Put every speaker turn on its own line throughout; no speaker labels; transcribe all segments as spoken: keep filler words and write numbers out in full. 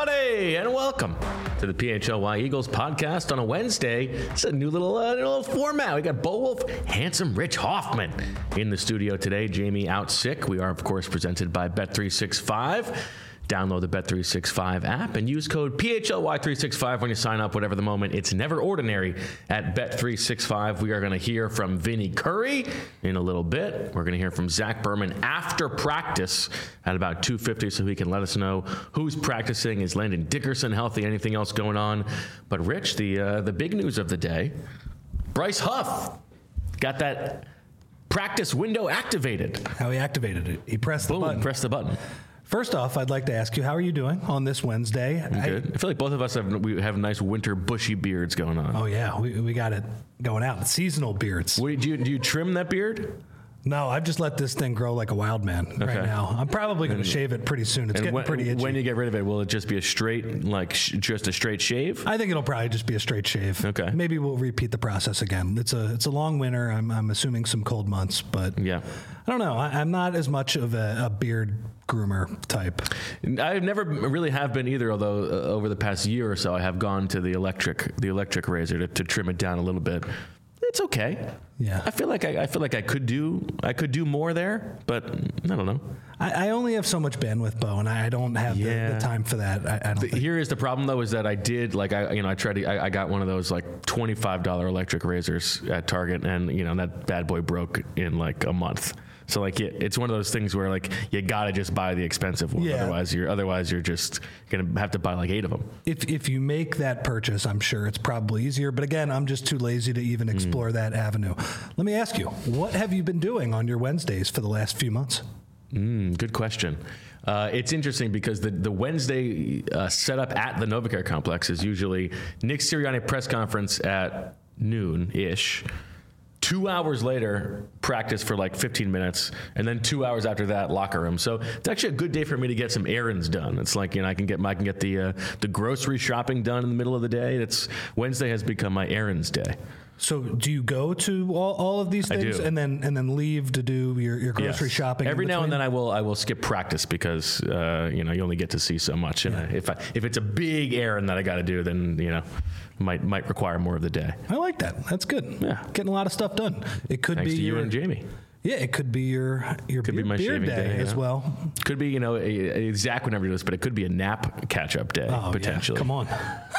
everybody, and welcome to the P H L Y Eagles podcast on a Wednesday. It's a new little, uh, little format. We got Bo Wolf, handsome Rich Hoffman in the studio today. Jamie out sick. We are, of course, presented by Bet three sixty-five. Download the Bet three sixty-five app and use code P H L Y three sixty-five when you sign up, whatever the moment. It's never ordinary at Bet three sixty-five. We are going to hear from Vinny Curry in a little bit. We're going to hear from Zach Berman after practice at about two fifty so he can let us know who's practicing. Is Landon Dickerson healthy? Anything else going on? But Rich, the, uh, the big news of the day, Bryce Huff got that practice window activated.
How he activated it. He pressed
Boom,
the button.
Pressed the button.
First off, I'd like to ask you, how are you doing on this Wednesday?
I'm good. I, I feel like both of us have we have nice winter bushy beards going on.
Oh yeah, we we got it going out. Seasonal beards.
Wait, do you do you trim that beard?
No, I've just let this thing grow like a wild man okay. right now. I'm probably going to shave it pretty soon. It's getting
when,
pretty itchy.
When you get rid of it, will it just be a straight, like sh- just a straight shave?
I think it'll probably just be a straight shave.
Okay.
Maybe we'll repeat the process again. It's a it's a long winter. I'm I'm assuming some cold months, but
yeah,
I don't know. I, I'm not as much of a, a beard groomer type.
I never really have been either. Although uh, over the past year or so, I have gone to the electric the electric razor to, to trim it down a little bit. It's okay.
Yeah.
I feel like I, I feel like I could do I could do more there, but I don't know.
I, I only have so much bandwidth, Bo, and I don't have
yeah.
the, the time for that. I, I don't
the,
think.
Here is the problem, though, is that I did like I you know I tried to I, I got one of those like twenty-five dollars electric razors at Target, and you know that bad boy broke in like a month. So like it, it's one of those things where like you gotta just buy the expensive one,
yeah.
otherwise you're otherwise you're just gonna have to buy like eight of them.
If if you make that purchase, I'm sure it's probably easier. But again, I'm just too lazy to even explore mm. that avenue. Let me ask you, what have you been doing on your Wednesdays for the last few months?
Mm, good question. Uh, it's interesting because the, the Wednesday uh, setup at the Novacare complex is usually Nick Sirianni press conference at noon-ish. Two hours later, practice for like fifteen minutes, and then two hours after that, locker room. So it's actually a good day for me to get some errands done. It's like, you know, I can get I can get the uh, the grocery shopping done in the middle of the day. It's Wednesday has become my errands day.
So do you go to all, all of these things and then and then leave to do your, your grocery
yes.
shopping?
Every now and then I will I will skip practice because uh, you know you only get to see so much. And
yeah.
if I, if it's a big errand that I got to do, then you know might might require more of the day.
I like that. That's good.
Yeah,
getting a lot of stuff done. It could
Thanks
be
to
your,
you and Jamie.
Yeah, it could be your your
could
beard,
be my
beard
shaving
day,
day
as
yeah.
well.
Could be you know a, a Zach would never do this, but it could be a nap catch up day
oh,
potentially.
Yeah. Come on.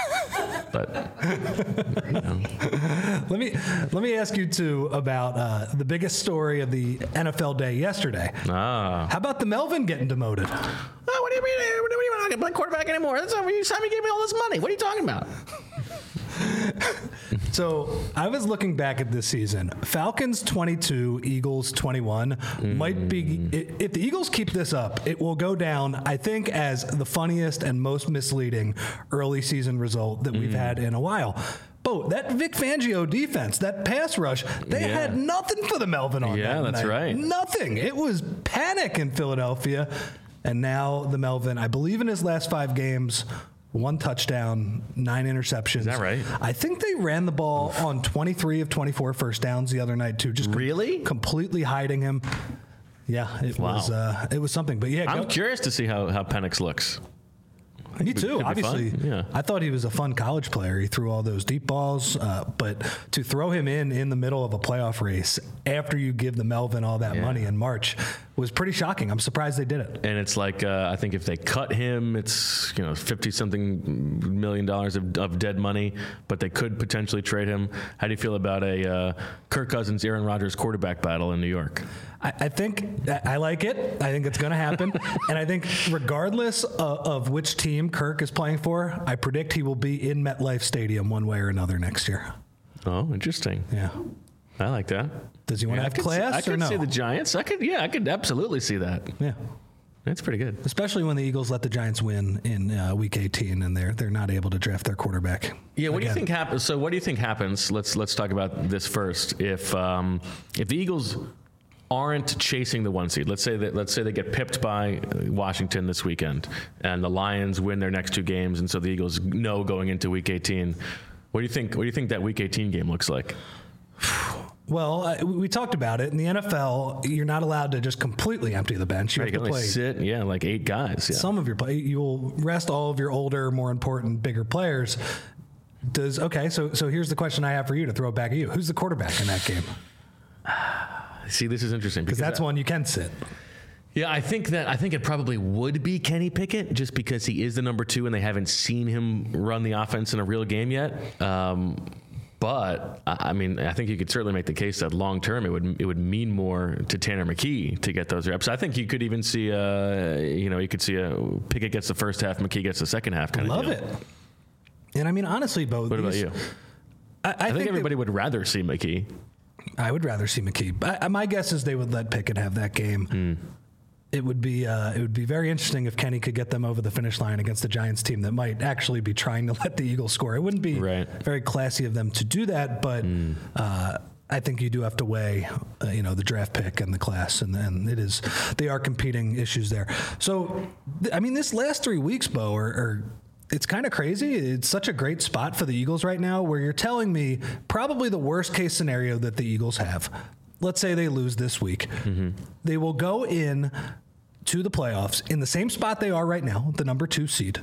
But you know.
let me let me ask you too about uh, the biggest story of the N F L day yesterday.
Ah.
How about the Melvin getting demoted?
Oh, what do you mean? What do you mean? I'm not gonna play quarterback anymore? That's not you signed me, gave me all this money. What are you talking about?
So I was looking back at this season. Falcons twenty-two, Eagles twenty-one mm. might be. If the Eagles keep this up, it will go down, I think, as the funniest and most misleading early season result that we've mm. had in a while. Bo, that Vic Fangio defense, that pass rush, they yeah. had nothing for the Melvin on
yeah,
that
that's
night.
right.
Nothing. It was panic in Philadelphia. And now the Melvin, I believe in his last five games, one touchdown, nine interceptions.
Is that right?
I think they ran the ball on twenty-three of twenty-four first downs the other night too. Just com-
really
completely hiding him. Yeah, it wow. was uh, it was something. But yeah,
I'm
go.
curious to see how how Penix looks.
Me too. Obviously,
yeah.
I thought he was a fun college player. He threw all those deep balls, uh, but to throw him in in the middle of a playoff race after you give the Melvin all that yeah. money in March was pretty shocking. I'm surprised they did it.
And it's like uh, I think if they cut him, it's you know fifty something million dollars of, of dead money, but they could potentially trade him. How do you feel about a uh, Kirk Cousins, Aaron Rodgers quarterback battle in New York?
I, I think I like it. I think it's going to happen. And I think regardless of, of which team Kirk is playing for, I predict he will be in MetLife Stadium one way or another next year.
Oh, interesting.
Yeah.
I like that.
Does he want
yeah,
to have class
see, I
or no?
I could see the Giants. I could, yeah, I could absolutely see that.
Yeah.
That's pretty good.
Especially when the Eagles let the Giants win in uh, Week eighteen, and they're they're not able to draft their quarterback.
Yeah, what
again.
do you think happens? So, what do you think happens? Let's let's talk about this first. If um, if the Eagles aren't chasing the one seed, let's say that let's say they get pipped by Washington this weekend, and the Lions win their next two games, and so the Eagles know going into Week eighteen. What do you think? What do you think that Week eighteen game looks like?
Well, uh, we talked about it. In the N F L, you're not allowed to just completely empty the bench. You
Right,
have
you
to
can only
play
sit, yeah, like eight guys. Yeah.
some of your play. You'll rest all of your older, more important, bigger players. Does okay? So, so here's the question I have for you to throw it back at you. Who's the quarterback in that game?
See, this is interesting
Because that's
I,
one you can sit.
Yeah, I think that I think it probably would be Kenny Pickett just because he is the number two and they haven't seen him run the offense in a real game yet. Um, But I mean, I think you could certainly make the case that long term it would it would mean more to Tanner McKee to get those reps. I think you could even see a you know you could see a Pickett gets the first half, McKee gets the second half kind
Love
of deal.
it. And I mean, honestly, Bo.
What
these,
about you?
I, I,
I think,
think
everybody
they,
would rather see McKee.
I would rather see McKee. I, my guess is they would let Pickett have that game.
Mm.
It would be uh, it would be very interesting if Kenny could get them over the finish line against the Giants team that might actually be trying to let the Eagles score. It wouldn't be
right.
very classy of them to do that, but mm. uh, I think you do have to weigh, uh, you know, the draft pick and the class, and, and it is they are competing issues there. So, th- I mean, this last three weeks, Bo, are, are it's kind of crazy. It's such a great spot for the Eagles right now, where you're telling me probably the worst case scenario that the Eagles have. Let's say they lose this week, mm-hmm. they will go in to the playoffs in the same spot they are right now, the number two seed.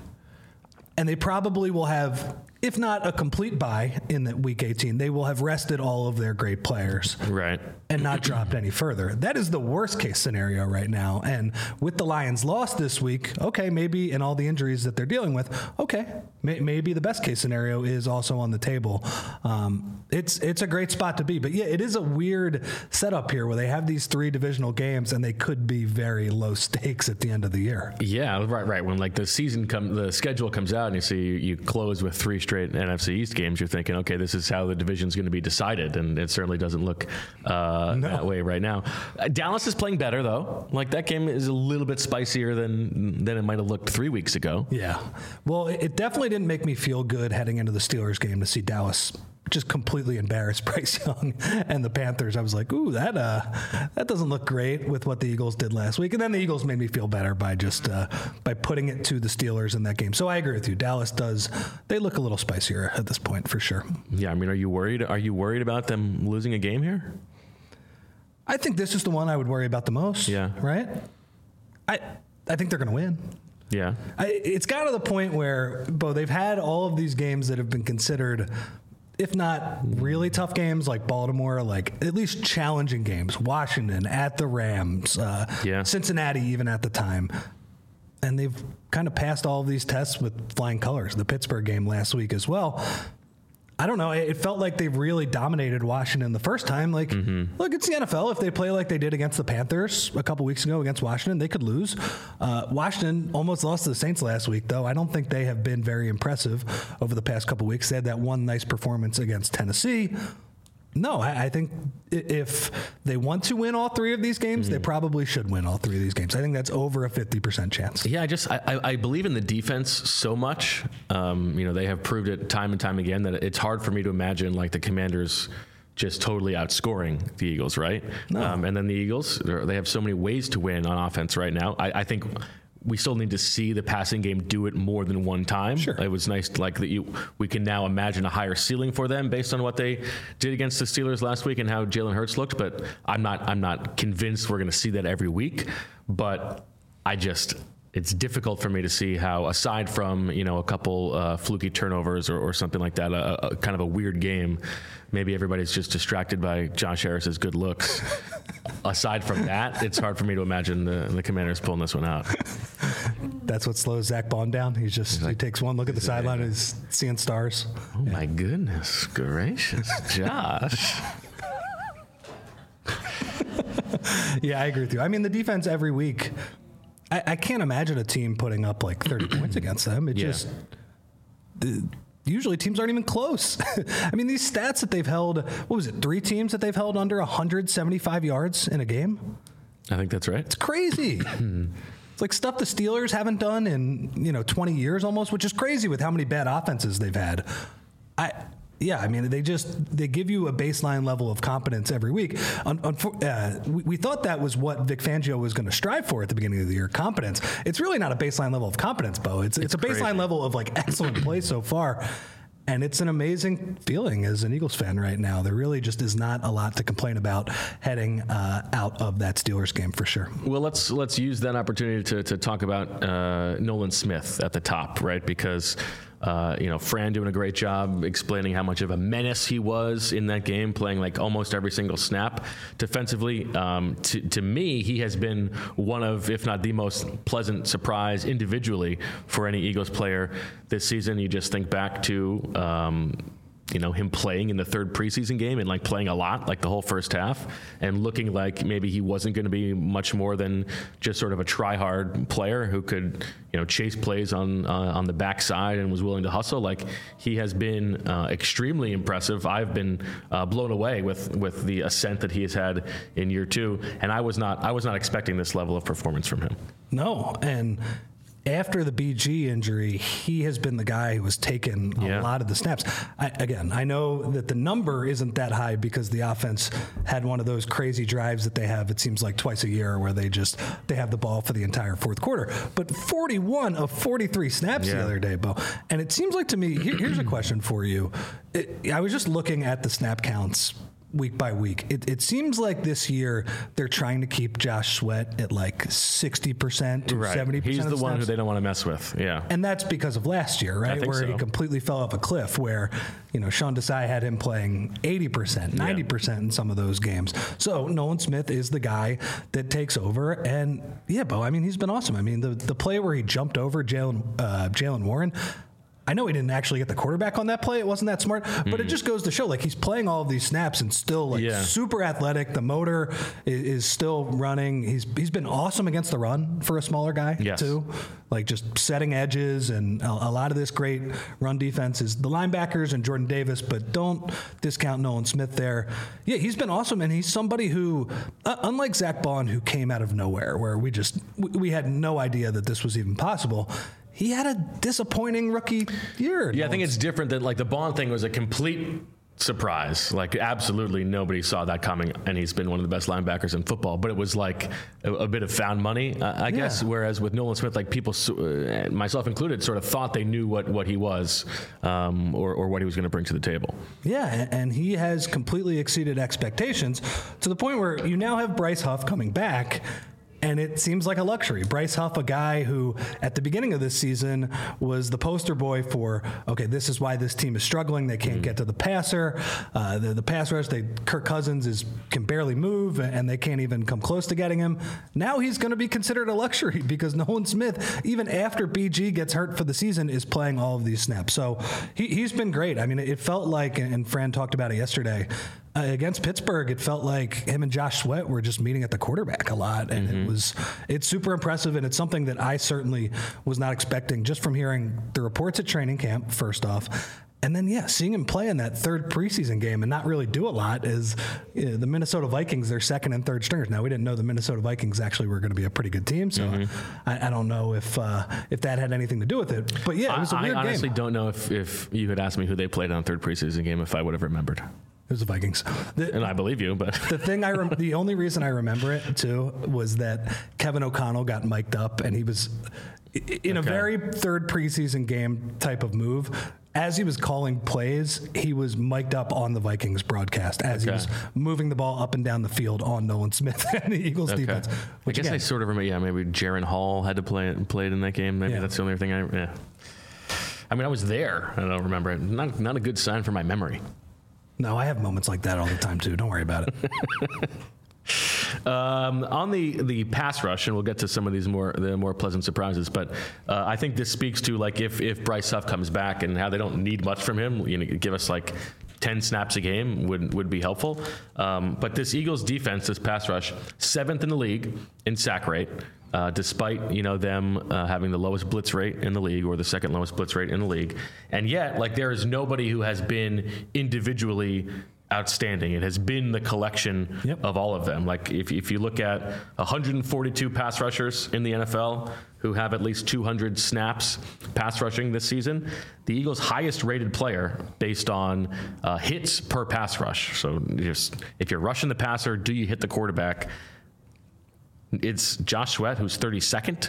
And they probably will have, if not a complete bye in the week eighteen, they will have rested all of their great players.
Right.
And not dropped any further. That is the worst case scenario right now. And with the Lions lost this week, okay, maybe, and all the injuries that they're dealing with, okay, may, maybe the best case scenario is also on the table. Um, it's it's a great spot to be. But yeah, it is a weird setup here where they have these three divisional games and they could be very low stakes at the end of the year.
Yeah, right, right. When like the season come, the schedule comes out and you see you, you close with three straight N F C East games, you're thinking, okay, this is how the division's going to be decided. And it certainly doesn't look uh, No. that way right now. Uh, Dallas is playing better, though. Like, that game is a little bit spicier than than it might have looked three weeks ago.
Yeah. Well, it definitely didn't make me feel good heading into the Steelers game to see Dallas just completely embarrass Bryce Young and the Panthers. I was like, ooh, that uh, that doesn't look great with what the Eagles did last week. And then the Eagles made me feel better by just uh, by putting it to the Steelers in that game. So I agree with you. Dallas does. They look a little spicier at this point for sure.
Yeah. I mean, are you worried? Are you worried about them losing a game here?
I think this is the one I would worry about the most.
Yeah.
Right? I I think they're going to win.
Yeah.
I, it's got to the point where, Bo, they've had all of these games that have been considered, if not really tough games like Baltimore, like at least challenging games. Washington at the Rams, uh,
yeah.
Cincinnati even at the time. And they've kind of passed all of these tests with flying colors. The Pittsburgh game last week as well. I don't know. It felt like they really dominated Washington the first time. Like, mm-hmm. look, it's the N F L. If they play like they did against the Panthers a couple weeks ago against Washington, they could lose. Uh, Washington almost lost to the Saints last week, though. I don't think they have been very impressive over the past couple weeks. They had that one nice performance against Tennessee. No, I, I think if they want to win all three of these games, mm-hmm. they probably should win all three of these games. I think that's over a fifty percent chance.
Yeah, I just I, I believe in the defense so much. Um, you know, they have proved it time and time again that it's hard for me to imagine like the Commanders just totally outscoring the Eagles, right?
No.
Um, and then the Eagles, they have so many ways to win on offense right now. I, I think we still need to see the passing game do it more than one time.
Sure.
It was nice, like that you. We can now imagine a higher ceiling for them based on what they did against the Steelers last week and how Jalen Hurts looked. But I'm not. I'm not convinced we're going to see that every week. But I just. It's difficult for me to see how, aside from you know a couple uh, fluky turnovers or, or something like that, a, a kind of a weird game. Maybe everybody's just distracted by Josh Harris's good looks. Aside from that, it's hard for me to imagine the, the Commanders pulling this one out.
That's what slows Zach Bond down. He's just he's like, he takes one look at the sideline and he's seeing stars.
Oh yeah. My goodness gracious, Josh.
Yeah, I agree with you. I mean, the defense every week. I, I can't imagine a team putting up like thirty points against them. It yeah. just. The, Usually teams aren't even close. I mean, these stats that they've held, what was it, three teams that they've held under one hundred seventy-five yards in a game?
I think that's right.
It's crazy. It's like stuff the Steelers haven't done in, you know, twenty years almost, which is crazy with how many bad offenses they've had. I... Yeah, I mean, they just they give you a baseline level of competence every week. Un, un, uh, we, we thought that was what Vic Fangio was going to strive for at the beginning of the year, competence. It's really not a baseline level of competence, Bo. It's it's, it's a baseline crazy. level of like excellent play so far. And it's an amazing feeling as an Eagles fan right now. There really just is not a lot to complain about heading uh, out of that Steelers game for sure.
Well, let's let's use that opportunity to, to talk about uh, Nolan Smith at the top, right? Because Uh, you know, Fran doing a great job explaining how much of a menace he was in that game, playing like almost every single snap defensively. Um, to, to me, he has been one of, if not the most pleasant surprise individually for any Eagles player this season. You just think back to, um, you know, him playing in the third preseason game and like playing a lot, like the whole first half, and looking like maybe he wasn't going to be much more than just sort of a try-hard player who could, you know, chase plays on uh, on the backside and was willing to hustle. Like, he has been uh, extremely impressive. I've been uh, blown away with with the ascent that he has had in year two, and I was not I was not expecting this level of performance from him.
No, and after the B G injury, he has been the guy who has taken a
yeah.
lot of the snaps. I, again, I know that the number isn't that high because the offense had one of those crazy drives that they have, it seems like twice a year, where they just they have the ball for the entire fourth quarter. But forty-one of forty-three snaps yeah. the other day, Bo. And it seems like to me, here, here's a question for you. It, I was just looking at the snap counts week by week. It, it seems like this year they're trying to keep Josh Sweat at like sixty percent to
right.
seventy percent.
He's the
of
one
snaps.
who they don't want to mess with. Yeah.
And that's because of last year, right? Where so. he completely fell off a cliff, where, you know, Sean Desai had him playing eighty percent, ninety percent yeah. in some of those games. So Nolan Smith is the guy that takes over. And yeah, Bo, I mean, he's been awesome. I mean, the, the play where he jumped over Jalen uh, Jalen Warren, I know he didn't actually get the quarterback on that play. It wasn't that smart, but mm. it just goes to show, like, he's playing all of these snaps and still like yeah. super athletic. The motor is, is still running. He's he's been awesome against the run for a smaller guy
yes.
too, like just setting edges, and a, a lot of this great run defense is the linebackers and Jordan Davis, but don't discount Nolan Smith there. Yeah, he's been awesome, and he's somebody who, uh, unlike Zach Bond, who came out of nowhere, where we just we, we had no idea that this was even possible. He had a disappointing rookie year.
Yeah, I think it's different than, like, the Bond thing was a complete surprise. Like, absolutely nobody saw that coming, and he's been one of the best linebackers in football. But it was like a, a bit of found money, uh, I yeah. guess. Whereas with Nolan Smith, like, people, uh, myself included, sort of thought they knew what, what he was um, or, or what he was going to bring to the table.
Yeah, and, and he has completely exceeded expectations to the point where you now have Bryce Huff coming back, and it seems like a luxury. Bryce Huff, a guy who at the beginning of this season was the poster boy for, okay, this is why this team is struggling. They can't mm-hmm. get to the passer. Uh, the, the pass rush, they, Kirk Cousins is can barely move, and they can't even come close to getting him. Now he's going to be considered a luxury because Nolan Smith, even after B G gets hurt for the season, is playing all of these snaps. So he, he's been great. I mean, it felt like, and Fran talked about it yesterday, Uh, against Pittsburgh, it felt like him and Josh Sweat were just meeting at the quarterback a lot, and mm-hmm. it was it's super impressive, and it's something that I certainly was not expecting just from hearing the reports at training camp, first off, and then, yeah, seeing him play in that third preseason game and not really do a lot. Is you know, the Minnesota Vikings, their second and third stringers. Now, we didn't know the Minnesota Vikings actually were going to be a pretty good team, so mm-hmm. I, I don't know if uh, if that had anything to do with it. But, yeah, it was a
I,
weird game.
I honestly game. don't know if, if you had asked me who they played on third preseason game if I would have remembered.
It was the Vikings. The,
and I believe you, but
the thing I rem- the only reason I remember it too was that Kevin O'Connell got mic'd up, and he was in okay. a very third preseason game type of move. As he was calling plays, he was mic'd up on the Vikings broadcast as okay. he was moving the ball up and down the field on Nolan Smith and the Eagles okay. defense.
Which I guess again, I sort of remember. Yeah, maybe Jaron Hall had to play it and played in that game. Maybe yeah. that's the only thing I. Yeah. I mean, I was there. I don't remember it. Not not a good sign for my memory.
No, I have moments like that all the time, too. Don't worry about it.
um, on the, the pass rush, and we'll get to some of these more the more pleasant surprises, but uh, I think this speaks to, like, if, if Bryce Huff comes back and how they don't need much from him, you know, give us, like, ten snaps a game would would be helpful. Um, but this Eagles defense, this pass rush, seventh in the league in sack rate. Uh, despite, you know, them uh, having the lowest blitz rate in the league, or the second lowest blitz rate in the league. And yet, like, there is nobody who has been individually outstanding. It has been the collection yep. of all of them. Like, if, if you look at one hundred forty-two pass rushers in the N F L who have at least two hundred snaps pass rushing this season, the Eagles' highest rated player based on uh, hits per pass rush. So just if you're rushing the passer, do you hit the quarterback? It's Josh Sweat, who's thirty-second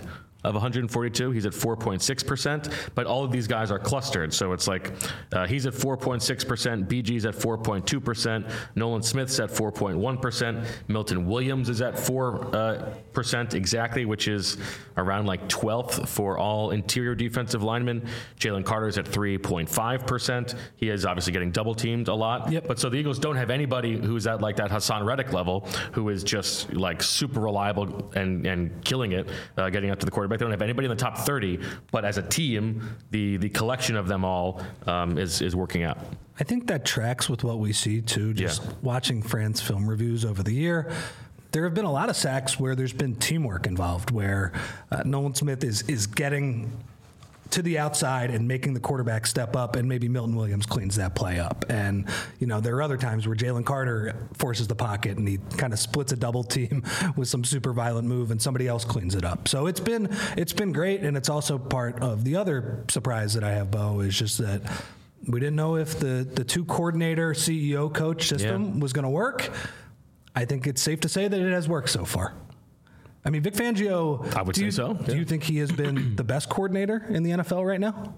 of one hundred forty-two. He's at four point six percent, but all of these guys are clustered. So it's like uh, he's at four point six percent, B G's at four point two percent, Nolan Smith's at four point one percent, Milton Williams is at four percent uh, exactly, which is around like twelfth for all interior defensive linemen. Jalen Carter's at three point five percent. He is obviously getting double teamed a lot.
Yep.
But so the Eagles don't have anybody who's at like that Hassan Reddick level, who is just like super reliable and, and killing it, uh, getting up to the quarterback. They don't have anybody in the top thirty, but as a team, the the collection of them all um, is is working out.
I think that tracks with what we see too. Just
Yeah.
watching Fran's film reviews over the year, there have been a lot of sacks where there's been teamwork involved, where uh, Nolan Smith is is getting to the outside and making the quarterback step up, and maybe Milton Williams cleans that play up. And, you know, there are other times where Jalen Carter forces the pocket and he kind of splits a double team with some super violent move and somebody else cleans it up. So it's been it's been great, and it's also part of the other surprise that I have, Bo, is just that we didn't know if the, the two coordinator, C E O, coach system
Yeah.
was going to work. I think it's safe to say that it has worked so far. I mean, Vic Fangio,
I would
do
say
you,
so,
Do
yeah.
you think he has been the best coordinator in the N F L right now?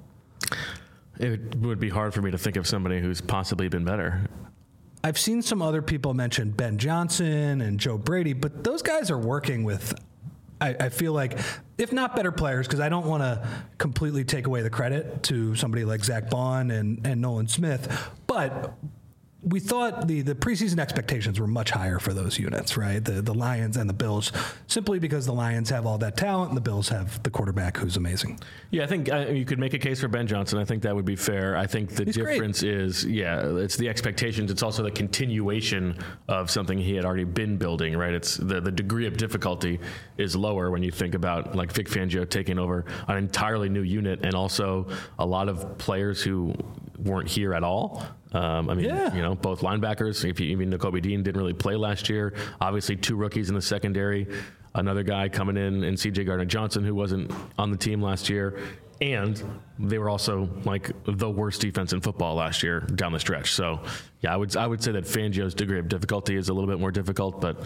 It would be hard for me to think of somebody who's possibly been better.
I've seen some other people mention Ben Johnson and Joe Brady, but those guys are working with, I, I feel like, if not better players, because I don't want to completely take away the credit to somebody like Zach Bond and, and Nolan Smith, but we thought the, the preseason expectations were much higher for those units, right? The the Lions and the Bills, simply because the Lions have all that talent and the Bills have the quarterback who's amazing.
Yeah, I think uh, you could make a case for Ben Johnson. I think that would be fair. I think the
He's
difference
great.
is, yeah, it's the expectations. It's also the continuation of something he had already been building, right? It's the, the degree of difficulty is lower when you think about like Vic Fangio taking over an entirely new unit, and also a lot of players who weren't here at all. Um, I mean,
Yeah.
you know, both linebackers. If you, even Nakobe Dean didn't really play last year. Obviously, two rookies in the secondary. Another guy coming in, and C J Gardner-Johnson, who wasn't on the team last year. And they were also like the worst defense in football last year down the stretch. So, yeah, I would I would say that Fangio's degree of difficulty is a little bit more difficult, but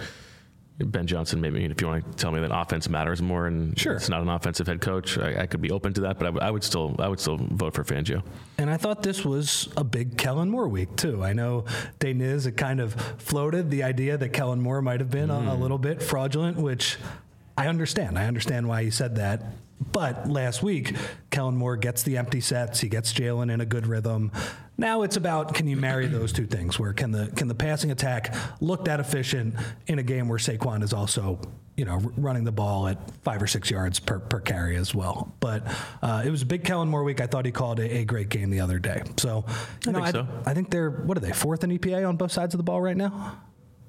Ben Johnson, maybe if you want to tell me that offense matters more and
Sure.
it's not an offensive head coach, I, I could be open to that, but I, w- I would still I would still vote for Fangio.
And I thought this was a big Kellen Moore week, too. I know Deniz had kind of floated the idea that Kellen Moore might have been mm. a, a little bit fraudulent, which I understand. I understand why he said that. But last week, Kellen Moore gets the empty sets. He gets Jalen in a good rhythm. Now it's about, can you marry those two things? Where can the can the passing attack look that efficient in a game where Saquon is also, you know, r- running the ball at five or six yards per, per carry as well? But uh, it was a big Kellen Moore week. I thought he called a, a great game the other day. So, you
I
know,
think so.
I think they're, what are they, fourth in E P A on both sides of the ball right now?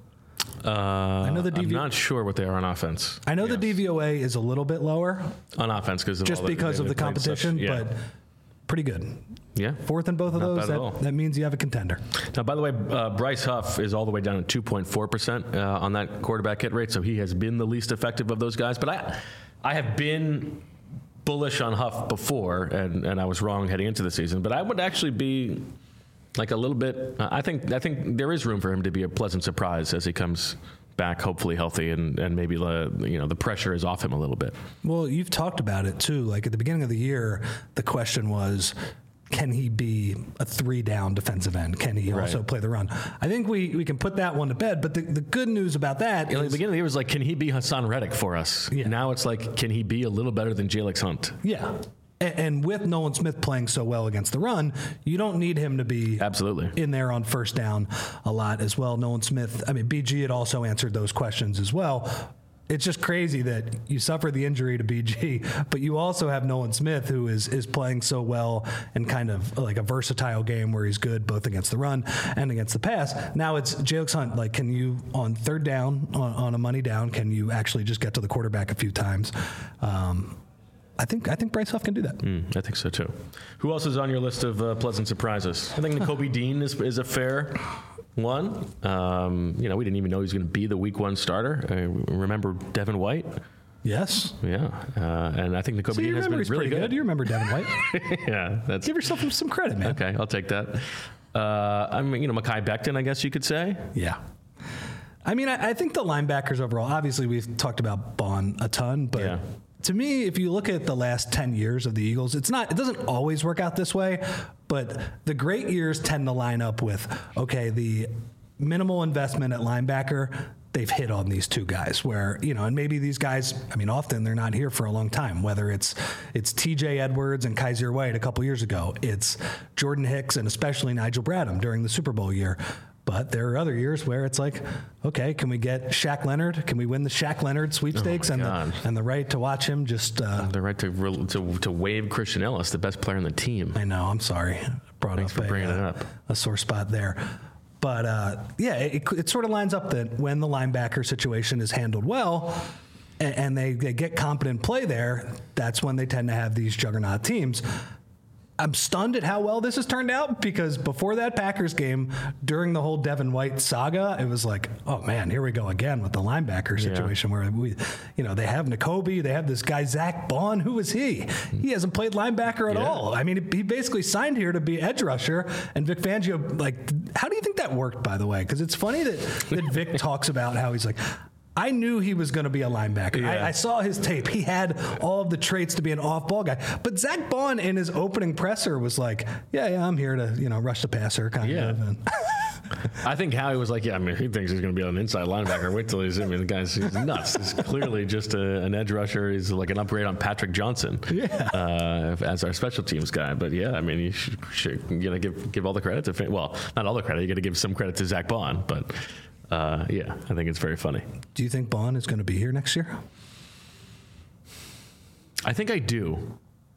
Uh, I
know the D V-
I'm not sure what they are on offense.
I know
Yes.
the D V O A is a little bit lower
on offense because of
just
all the,
because
they-
of the
they played such-
competition,
yeah.
but pretty good.
yeah.
Fourth in both of
Not
those,
bad at all.
that, that means you have a contender.
Now, by the way, uh, Bryce Huff is all the way down at two point four percent uh, on that quarterback hit rate, so he has been the least effective of those guys. But I, I have been bullish on Huff before, and, and I was wrong heading into the season. But I would actually be like a little bit. Uh, I think I think there is room for him to be a pleasant surprise as he comes back, hopefully healthy, and, and maybe the you know the pressure is off him a little bit.
Well, you've talked about it too. Like at the beginning of the year, the question was, can he be a three-down defensive end? Can he
Right.
also play the run? I think we, we can put that one to bed. But the, the good news about that
You know, at
is,
the beginning of the year it was like, can he be Hassan Reddick for us?
Yeah.
Now it's like, can he be a little better than Jalex Hunt?
yeah. And, and with Nolan Smith playing so well against the run, you don't need him to be
Absolutely.
in there on first down a lot as well. Nolan Smith, I mean, B G had also answered those questions as well. It's just crazy that you suffer the injury to B G, but you also have Nolan Smith, who is is playing so well and kind of like a versatile game where he's good both against the run and against the pass. Now it's Jalex Hunt. Like, can you, on third down, on, on a money down, can you actually just get to the quarterback a few times? Um, I think I think Bryce Huff can do that.
Mm, I think so too. Who else is on your list of uh, pleasant surprises? I think Nakobe Dean is, is a fair one. Um, you know, we didn't even know he was going to be the week one starter. I remember Devin White.
Yes.
Yeah, uh, and I think Nakobe
So
Dean
your
has been
memory's
really
pretty good.
good.
You remember Devin White?
yeah, that's
Give yourself some credit, man.
okay. I'll take that. Uh, I mean, you know, Mekhi Becton, I guess you could say.
Yeah. I mean, I, I think the linebackers overall, obviously we've talked about Bond a ton, but
Yeah.
to me, if you look at the last ten years of the Eagles, it's not, it doesn't always work out this way, but the great years tend to line up with, okay, the minimal investment at linebacker, they've hit on these two guys where, you know, and maybe these guys, I mean, often they're not here for a long time, whether it's it's T J Edwards and Kaiser White a couple years ago, it's Jordan Hicks and especially Nigel Bradham during the Super Bowl year. But there are other years where it's like, okay, can we get Shaq Leonard? Can we win the Shaq Leonard sweepstakes
oh
and the, and the right to watch him just uh,
the right to to to wave Christian Ellis, the best player on the team.
I know. I'm sorry. Brought
Thanks
up
for
a,
bringing
uh,
it up.
A sore spot there. But uh, yeah, it, it sort of lines up that when the linebacker situation is handled well and, and they, they get competent play there, that's when they tend to have these juggernaut teams. I'm stunned at how well this has turned out because before that Packers game, during the whole Devin White saga, it was like, oh man, here we go again with the linebacker situation yeah. where we, you know, they have Nakobe, they have this guy Zach Bond. Who is he? He hasn't played linebacker at yeah. all. I mean, he basically signed here to be edge rusher, and Vic Fangio, like, how do you think that worked, by the way? Because it's funny that that Vic talks about how he's like, I knew he was going to be a linebacker. Yeah. I, I saw his tape. He had all of the traits to be an off-ball guy. But Zach Bond in his opening presser was like, yeah, yeah, I'm here to, you know, rush the passer kind
yeah.
of. And
I think Howie was like, yeah, I mean, he thinks he's going to be an inside linebacker. Wait till he's, I mean, the guy's he's nuts. He's clearly just a, an edge rusher. He's like an upgrade on Patrick Johnson
yeah.
uh, as our special teams guy. But yeah, I mean, you should, should you know, give, give all the credit to, well, not all the credit. You got to give some credit to Zach Bond, but Uh, yeah, I think it's very funny.
Do you think Bond is going to be here next year?
I think I do.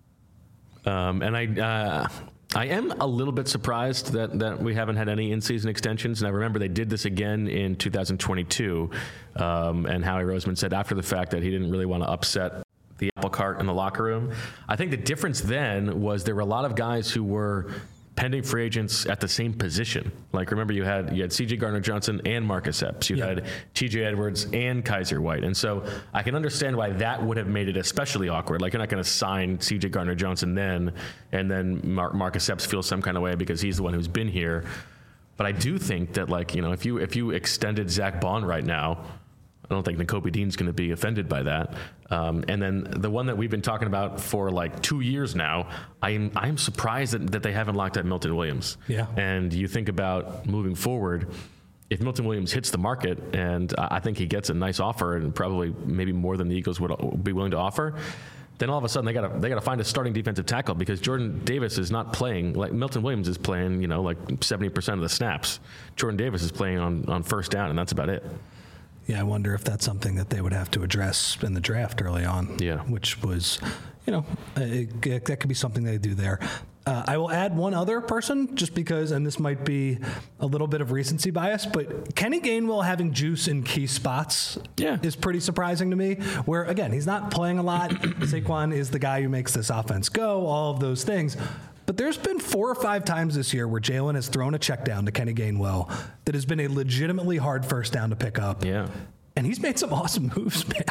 Um, and I uh, I am a little bit surprised that, that we haven't had any in-season extensions. And I remember they did this again in two thousand twenty-two. Um, and Howie Roseman said after the fact that he didn't really want to upset the apple cart in the locker room. I think the difference then was there were a lot of guys who were pending free agents at the same position. Like, remember, you had you had C J Gardner-Johnson and Marcus Epps. You yeah. had T J Edwards and Kaiser White. And so I can understand why that would have made it especially awkward. Like, you're not going to sign C J Gardner-Johnson then, and then Mar- Marcus Epps feels some kind of way because he's the one who's been here. But I do think that, like, you know, if you if you extended Zach Bond right now, I don't think Nakobe Dean's going to be offended by that. Um, and then the one that we've been talking about for like two years now, I am I am surprised that, that they haven't locked up Milton Williams.
Yeah.
And you think about moving forward, if Milton Williams hits the market, and I think he gets a nice offer and probably maybe more than the Eagles would be willing to offer, then all of a sudden they got to they got to find a starting defensive tackle because Jordan Davis is not playing like Milton Williams is playing, you know, like seventy percent of the snaps. Jordan Davis is playing on, on first down, and that's about it.
Yeah, I wonder if that's something that they would have to address in the draft early on.
Yeah. Which
was, you know, it, it, that could be something they do there. Uh, I will add one other person just because, and this might be a little bit of recency bias, but Kenny Gainwell having juice in key spots
yeah.
is pretty surprising to me. Where, again, he's not playing a lot. Saquon is the guy who makes this offense go, all of those things. But there's been four or five times this year where Jalen has thrown a check down to Kenny Gainwell that has been a legitimately hard first down to pick up.
Yeah.
And he's made some awesome moves, man.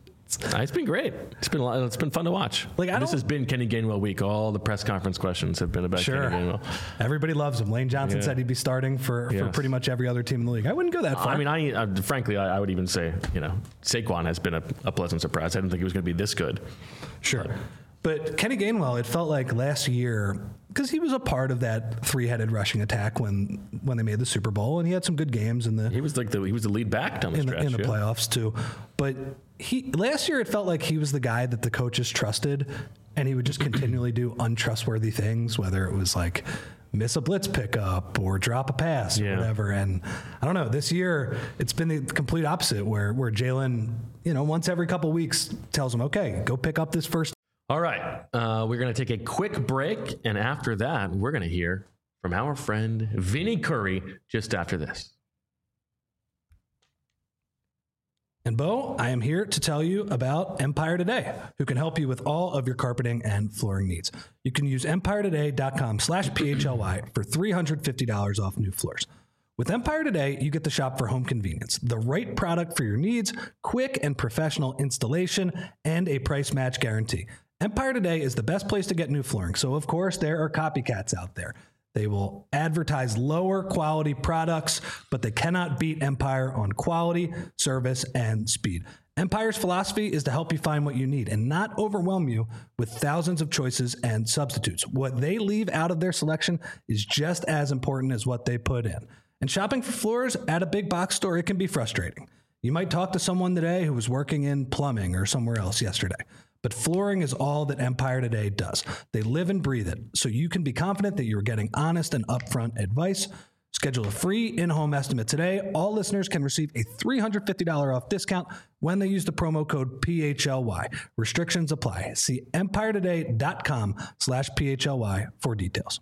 It's been great. It's been a lot, it's been fun to watch.
Like I
this has been Kenny Gainwell week. All the press conference questions have been about
sure.
Kenny Gainwell.
Everybody loves him. Lane Johnson
yeah.
said he'd be starting for,
yes.
for pretty much every other team in the league. I wouldn't go that far.
I mean, I uh, frankly, I, I would even say, you know, Saquon has been a, a pleasant surprise. I didn't think he was going to be this good.
Sure. But, But Kenny Gainwell, it felt like last year, because he was a part of that three-headed rushing attack when when they made the Super Bowl, and he had some good games in the.
He was like the he was the lead back down the
in
stretch
the, in the
yeah.
playoffs too. But he last year, it felt like he was the guy that the coaches trusted, and he would just continually do untrustworthy things, whether it was like miss a blitz pickup or drop a pass
yeah.
or whatever. And I don't know, this year it's been the complete opposite, where where Jalen, you know, once every couple weeks tells him, okay, go pick up this first.
All right, uh, we're going to take a quick break, and after that, we're going to hear from our friend Vinny Curry just after this.
And Bo, I am here to tell you about Empire Today, who can help you with all of your carpeting and flooring needs. You can use empire today dot com slash P H L Y for three hundred fifty dollars off new floors. With Empire Today, you get to shop for home convenience, the right product for your needs, quick and professional installation, and a price match guarantee. Empire Today is the best place to get new flooring, so of course there are copycats out there. They will advertise lower quality products, but they cannot beat Empire on quality, service, and speed. Empire's philosophy is to help you find what you need and not overwhelm you with thousands of choices and substitutes. What they leave out of their selection is just as important as what they put in. And shopping for floors at a big box store, it can be frustrating. You might talk to someone today who was working in plumbing or somewhere else yesterday. But flooring is all that Empire Today does. They live and breathe it, so you can be confident that you're getting honest and upfront advice. Schedule a free in-home estimate today. All listeners can receive a three hundred fifty dollars off discount when they use the promo code P H L Y. Restrictions apply. See empiretoday.com slash PHLY for details.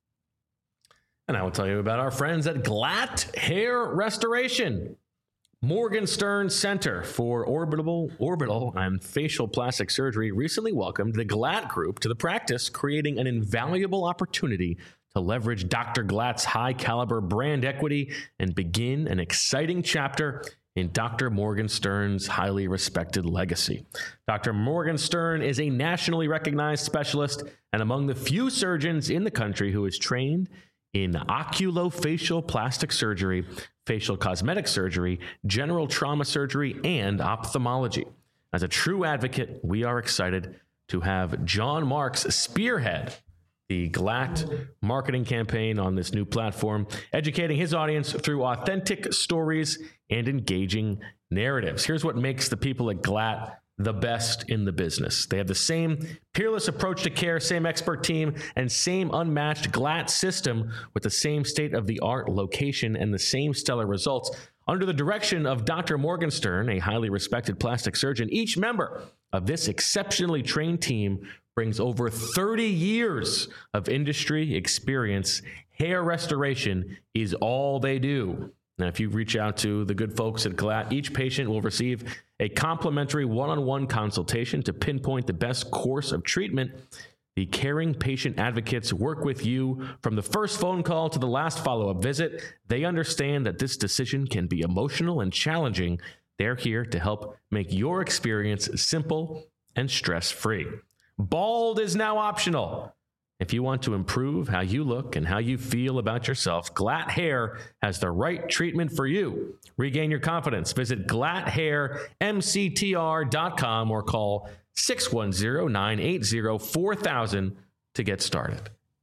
And I will tell you about our friends at Glatt Hair Restoration. Morgenstern Center for Orbital, Orbital and Facial Plastic Surgery recently welcomed the Glatt Group to the practice, creating an invaluable opportunity to leverage Doctor Glatt's high-caliber brand equity and begin an exciting chapter in Doctor Morgenstern's highly respected legacy. Doctor Morgenstern is a nationally recognized specialist and among the few surgeons in the country who is trained in oculofacial plastic surgery, facial cosmetic surgery, general trauma surgery, and ophthalmology. As a true advocate, we are excited to have John Marks spearhead the Glatt marketing campaign on this new platform, educating his audience through authentic stories and engaging narratives. Here's what makes the people at Glatt the best in the business. They have the same peerless approach to care, same expert team, and same unmatched Glatt system with the same state-of-the-art location and the same stellar results. Under the direction of Doctor Morgenstern, a highly respected plastic surgeon, each member of this exceptionally trained team brings over thirty years of industry experience. Hair restoration is all they do. Now, if you reach out to the good folks at Glatt, each patient will receive a complimentary one-on-one consultation to pinpoint the best course of treatment. The caring patient advocates work with you from the first phone call to the last follow-up visit. They understand that this decision can be emotional and challenging. They're here to help make your experience simple and stress-free. Bald is now optional. If you want to improve how you look and how you feel about yourself, Glatt Hair has the right treatment for you. Regain your confidence. Visit glatt hair m c t r dot com or call six one zero, nine eight zero, four thousand to get started.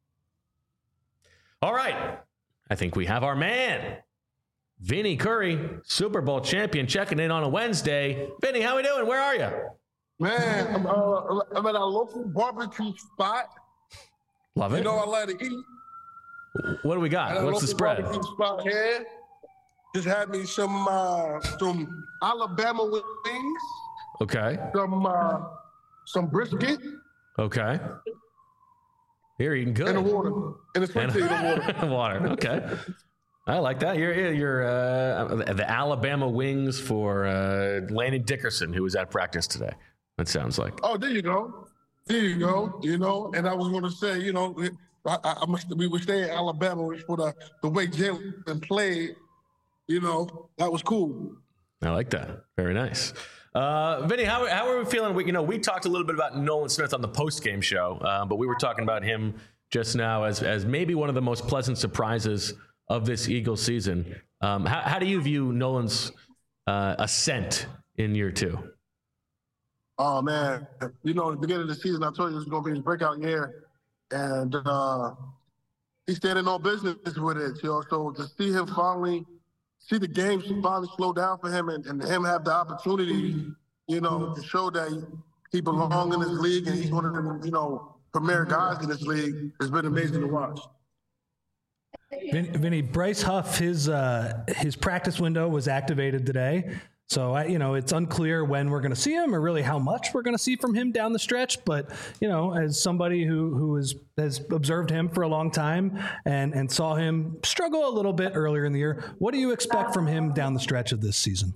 All right. I think we have our man, Vinny Curry, Super Bowl champion, checking in on a Wednesday. Vinny, how we doing? Where are you?
Man, I'm, uh, I'm at a local barbecue spot.
Love it.
You know I like to eat.
What do we got? What's the spread?
Barbecue spot here. Just had me some uh, some Alabama wings.
Okay.
Some uh, some brisket.
Okay. You're eating good.
And the water. And it's and the water.
Water. Okay. I like that. You're you're uh, the Alabama wings for uh, Landon Dickerson, who was at practice today. That sounds like.
Oh, there you go. There you go. You know, and I was going to say, you know, I, I must. We were staying in Alabama for the the way Jalen played. You know, that was cool.
I like that. Very nice. Uh, Vinny, how how are we feeling? We, you know, we talked a little bit about Nolan Smith on the post game show, uh, but we were talking about him just now as as maybe one of the most pleasant surprises of this Eagles season. Um, how, how do you view Nolan's uh, ascent in year two?
Oh, man. You know, at the beginning of the season, I told you it was going to be his breakout year. And uh, he's standing on business with it, you know. So to see him finally, see the game finally slow down for him and, and him have the opportunity, you know, to show that he, he belongs in this league and he's one of the, you know, premier guys in this league has been amazing to watch.
Vin, Vinny, Bryce Huff, his uh, his practice window was activated today. So, I, you know, it's unclear when we're going to see him or really how much we're going to see from him down the stretch. But, you know, as somebody who, who is, has observed him for a long time and, and saw him struggle a little bit earlier in the year, what do you expect from him down the stretch of this season?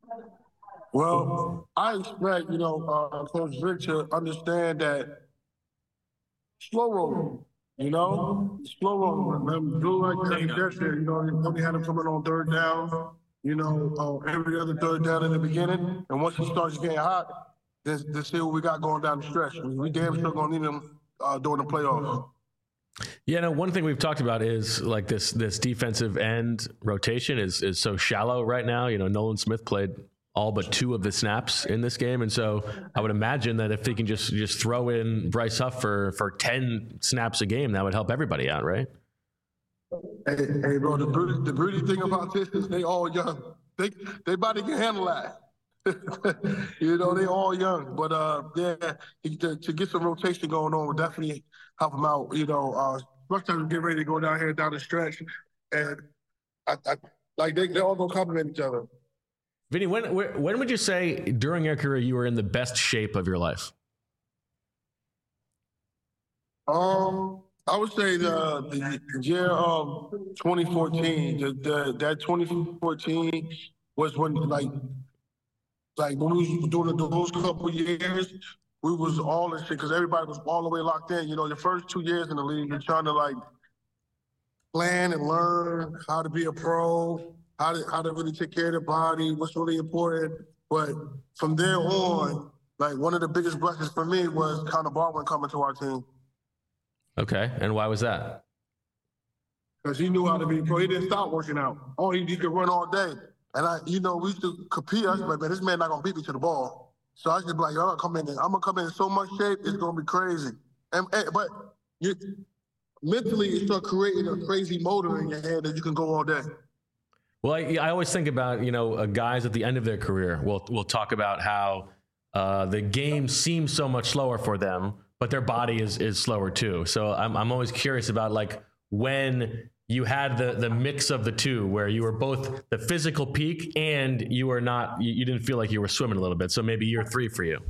Well, I expect, you know, uh, Coach Vic to understand that slow rolling, you know, slow rolling. Do like yesterday, you know, you only had him coming on third down. You know, uh, every other third down in the beginning. And once he starts getting hot, let's, let's see what we got going down the stretch. We damn sure going to need him uh, during the playoffs.
Yeah, no, one thing we've talked about is like this this defensive end rotation is is so shallow right now. You know, Nolan Smith played all but two of the snaps in this game, and so I would imagine that if they can just just throw in Bryce Huff for for ten snaps a game, that would help everybody out, right?
Hey, hey bro, the beauty, the beauty thing about this is they all young. They they body can handle that. You know, they all young, but uh, yeah, to, to get some rotation going on would definitely help them out. You know, uh, especially get ready to go down here down the stretch, and I, I like they they all gonna complement each other.
Vinny, when when would you say during your career you were in the best shape of your life?
Um, I would say the the year of twenty fourteen. The, the that twenty fourteen was when like. Like when we was doing those couple years, we was all in shit because everybody was all the way locked in. You know, the first two years in the league, you're trying to like plan and learn how to be a pro, how to how to really take care of the body, what's really important. But from there on, like one of the biggest blessings for me was Connor Barwin coming to our team.
Okay, and why was that?
Because he knew how to be a pro. He didn't stop working out. Oh, he, he could run all day. And I, you know, we used to compete. I was like, man, this man not gonna beat me to the ball. So I just be like, I'm gonna come in. I'm gonna come in so much shape, it's gonna be crazy. And, and but you mentally, you start creating a crazy motor in your head that you can go all day.
Well, I, I always think about, you know, uh, guys at the end of their career. We'll we'll talk about how uh, the game seems so much slower for them, but their body is is slower too. So I'm I'm always curious about like when you had the the mix of the two, where you were both the physical peak and you were not, you, you didn't feel like you were swimming a little bit. So maybe year three for you.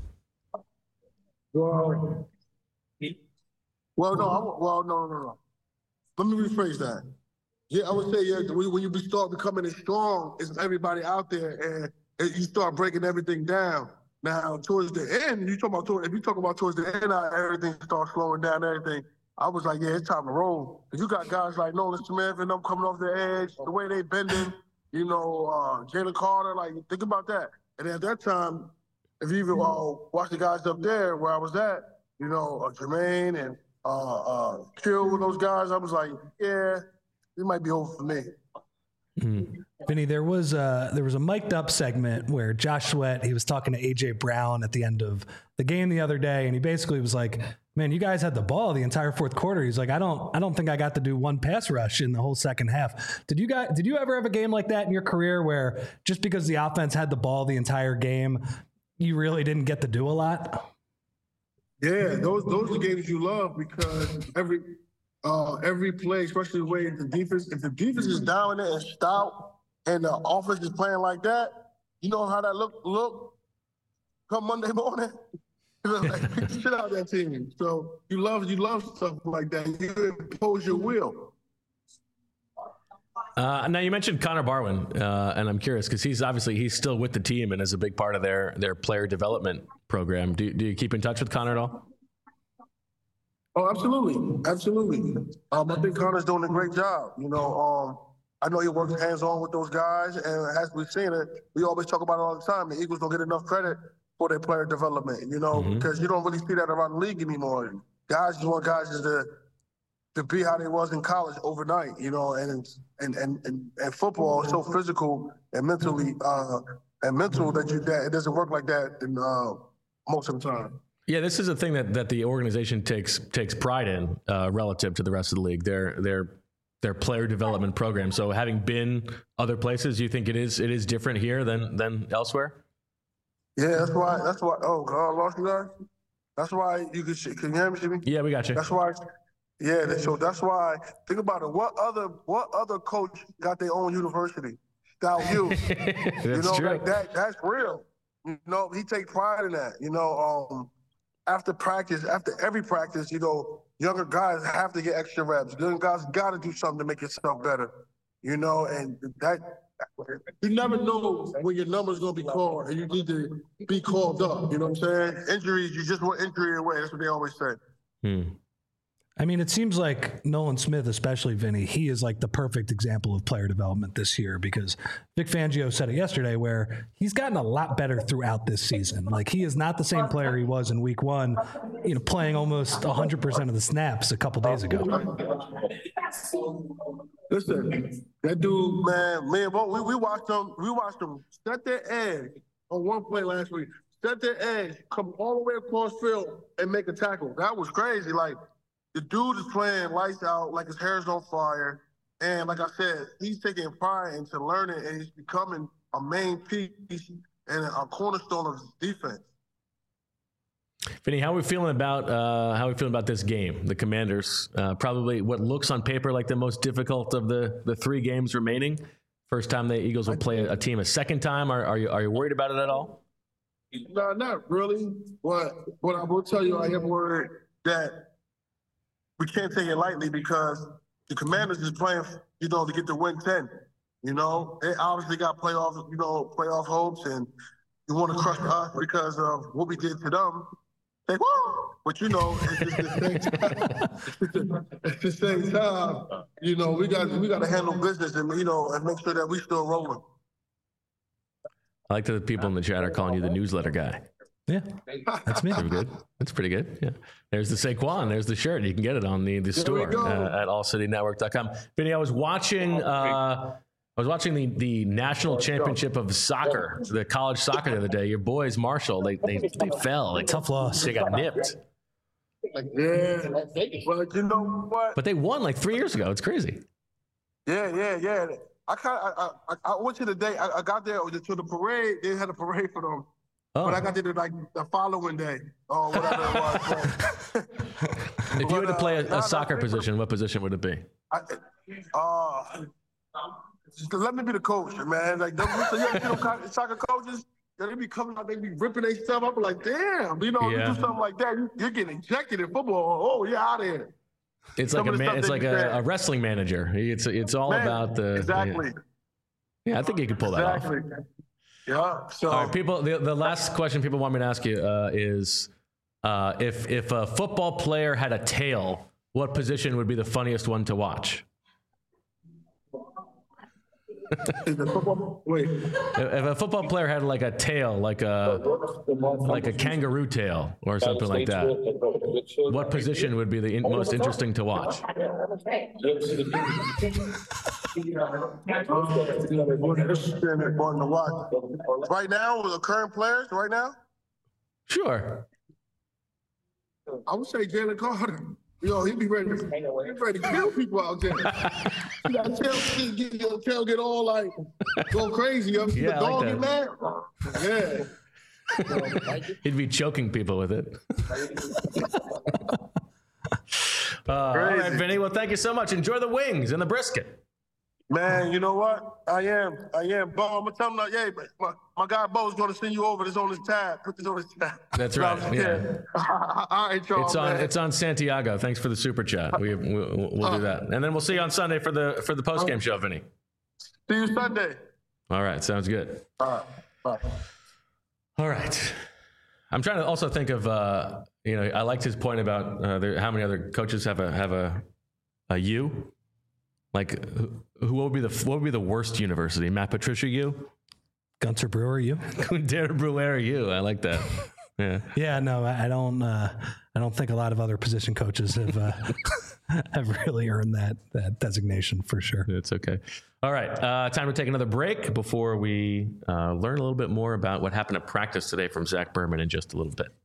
Well, well, no, I, well, no, no, no. Let me rephrase that. Yeah, I would say, yeah, when you start becoming as strong as everybody out there, and, and you start breaking everything down. Now, towards the end, you talk about towards, if you talk about towards the end, how everything starts slowing down, everything. I was like, yeah, it's time to roll. You got guys like Nolan Smith and them coming off the edge, the way they bending, you know, uh, Jalen Carter, like, think about that. And at that time, if you even uh, watch the guys up there where I was at, you know, uh, Jermaine and uh, uh, Kill with those guys, I was like, yeah, it might be over for me.
Mm-hmm. Vinny, there was a, there was a mic'd up segment where Josh Sweat, he was talking to A J Brown at the end of the game the other day, and he basically was like, man, you guys had the ball the entire fourth quarter. He's like, I don't, I don't think I got to do one pass rush in the whole second half. Did you guys, did you ever have a game like that in your career where just because the offense had the ball the entire game, you really didn't get to do a lot?
Yeah, those those are games you love because every uh, every play, especially the way the defense, if the defense is down there and stout and the offense is playing like that, you know how that look look come Monday morning. Like, pick the shit out of that team. So you love you love stuff like that. You impose your will.
Uh, now you mentioned Connor Barwin, uh, and I'm curious because he's obviously he's still with the team and is a big part of their their player development program. Do do you keep in touch with Connor at all?
Oh, absolutely, absolutely. Um, I think Connor's doing a great job. You know, um, I know he works hands on with those guys, and as we've seen it, we always talk about it all the time. The Eagles don't get enough credit for their player development, you know, mm-hmm. because you don't really see that around the league anymore. Guys just want guys to to be how they was in college overnight, you know, and and and and, and football is so physical and mentally uh, and mental that you that it doesn't work like that in, uh, most of the time.
Yeah, this is a thing that, that the organization takes takes pride in uh, relative to the rest of the league. Their their their player development program. So having been other places, you think it is it is different here than than elsewhere?
Yeah, that's why. That's why. Oh, God, I lost you guys. That's why you can. Can you hear me, Jimmy?
Yeah, we got you.
That's why. Yeah, so that's why. Think about it. What other What other coach got their own university? Stout U.
That's
you know,
true.
Like that. That's real. You know, he takes pride in that. You know, um, after practice, after every practice, you know, younger guys have to get extra reps. Young guys got to do something to make yourself better. You know, and that. You never know when your number's going to be called, and you need to be called up. You know what I'm saying? Injuries, you just want injury away. That's what they always say.
Hmm.
I mean, it seems like Nolan Smith, especially Vinny, he is like the perfect example of player development this year because Vic Fangio said it yesterday where he's gotten a lot better throughout this season. Like he is not the same player he was in week one, you know, playing almost one hundred percent of the snaps a couple days ago.
Listen, that dude, man, man, we, we watched them, we watched them set their edge on one play last week, set their edge, come all the way across field and make a tackle. That was crazy. Like, the dude is playing lights out like his hair's on fire. And like I said, he's taking pride into learning and he's becoming a main piece and a cornerstone of his defense.
Vinny, how are we feeling about uh, how are we feeling about this game? The Commanders, uh, probably what looks on paper like the most difficult of the, the three games remaining. First time the Eagles will play a, a team a second time. Are, are you are you worried about it at all?
No, not really. But what I will tell you, I am worried that we can't take it lightly because the Commanders is playing, you know, to get to win ten. You know, they obviously got playoff, you know, playoff hopes, and you want to crush us because of what we did to them. They, woo! But you know, it's just the same time. At the same time, you know, we got we got to handle business and you know and make sure that we still rolling.
I like that the people in the chat are calling you the newsletter guy.
Yeah, that's me.
Pretty good. That's pretty good. Yeah. There's the Saquon. There's the shirt. You can get it on the, the store uh, at all city network dot com. Vinny, I was watching uh, I was watching the, the national championship of soccer, the college soccer the other day. Your boys, Marshall, they they, they fell. They,
Tough loss.
They got nipped.
Yeah. Well, you know what?
But they won like three years ago. It's crazy.
Yeah, yeah, yeah. I kind I, I I went to the day. I, I got there to the parade. They had a parade for them.
Oh.
But I got there like the following day or whatever it was.
If you
But,
had to play a,
uh,
a soccer
nah,
position, what position would it be?
I, uh, just let me be the coach, man. Like, them, so you know, kind of soccer coaches, they be coming out, they be ripping their stuff up. Like, damn, you know,
Yeah.
you do something like that, you, you're getting ejected in football. Oh, you're out of here.
It's
Some
like a
of the
man,
stuff
it's
they
like
be
a,
saying.
a wrestling manager. It's it's all
Man,
about the
exactly,
Yeah, I think you could pull that off.
exactly. Yeah. So
All right, people. The, the last question people want me to ask you uh, is, uh, if if a football player had a tail, what position would be the funniest one to watch?
is the football, wait,
If if a football player had like a tail, like a like a kangaroo tail or something like that, what position would be the in, most interesting to watch?
right now with the current players, right now,
Sure.
I would say Jalen Carter. Yo, he be ready. To, he be ready to kill people out there. You got tail, get, get, your tail get all like go crazy. Up.
Yeah,
the
I
dog
like
get mad. Yeah.
He'd be choking people with it. uh, all right, Vinny. Well, thank you so much. Enjoy the wings and the brisket.
Man, you know what? I am. I am. Bo, I'm gonna tell him like, yeah, my, my guy Bo's gonna send you over this on his tab. Put this on his tab.
That's
No,
right.
I'm just
Yeah.
kidding. All right, y'all.
It's on.
man.
It's on Santiago. Thanks for the super chat. We, we we'll do that, and then we'll see you on Sunday for the for the post game show, Vinny.
See you Sunday.
All right, sounds good.
All right. Bye.
All right. I'm trying to also think of, uh, you know, I liked his point about uh, there, how many other coaches have a have a a U. Like, who, who would be the what would be the worst university? Matt Patricia U,
Gunter Brewer, you?
Darren Brewer U. I like that. Yeah.
Yeah, no, I I don't. Uh, I don't think a lot of other position coaches have uh, have really earned that that designation for sure.
It's okay. All right. Uh, time to take another break before we uh, learn a little bit more about what happened at practice today from Zach Berman in just a little bit.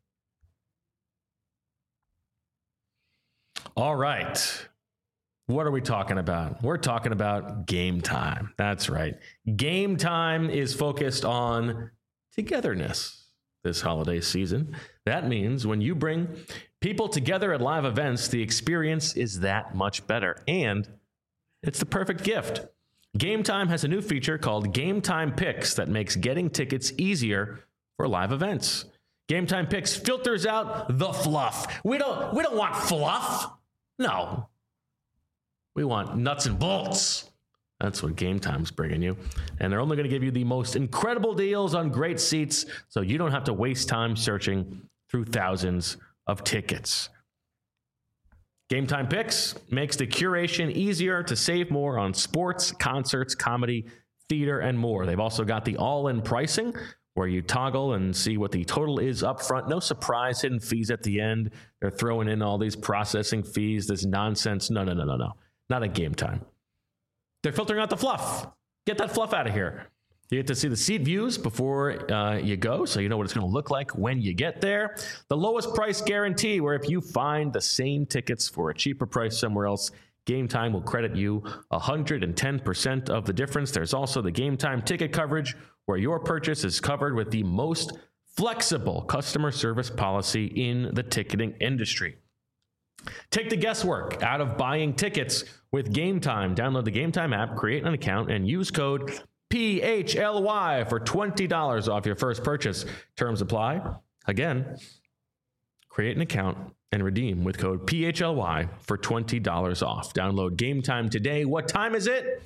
All right. What are we talking about? We're talking about Game Time. That's right. Game Time is focused on togetherness this holiday season. That means when you bring people together at live events, the experience is that much better. And it's the perfect gift. Game Time has a new feature called Game Time Picks that makes getting tickets easier for live events. Game Time Picks filters out the fluff. We don't we don't want fluff. No. We want nuts and bolts. That's what Game Time's bringing you. And they're only going to give you the most incredible deals on great seats, so you don't have to waste time searching through thousands of tickets. Game Time Picks makes the curation easier to save more on sports, concerts, comedy, theater, and more. They've also got the all-in pricing where you toggle and see what the total is up front. No surprise hidden fees at the end. They're throwing in all these processing fees, this nonsense. No, no, no, no, no. Not at Game Time. They're filtering out the fluff. Get that fluff out of here. You get to see the seat views before uh, you go, so you know what it's going to look like when you get there. The lowest price guarantee, where if you find the same tickets for a cheaper price somewhere else, Game Time will credit you one hundred ten percent of the difference. There's also the Game Time ticket coverage, where your purchase is covered with the most flexible customer service policy in the ticketing industry. Take the guesswork out of buying tickets with Game Time. Download the Game Time app, create an account, and use code P H L Y for twenty dollars off your first purchase. Terms apply. Again, create an account and redeem with code P H L Y for twenty dollars off. Download Game Time today. What time is it?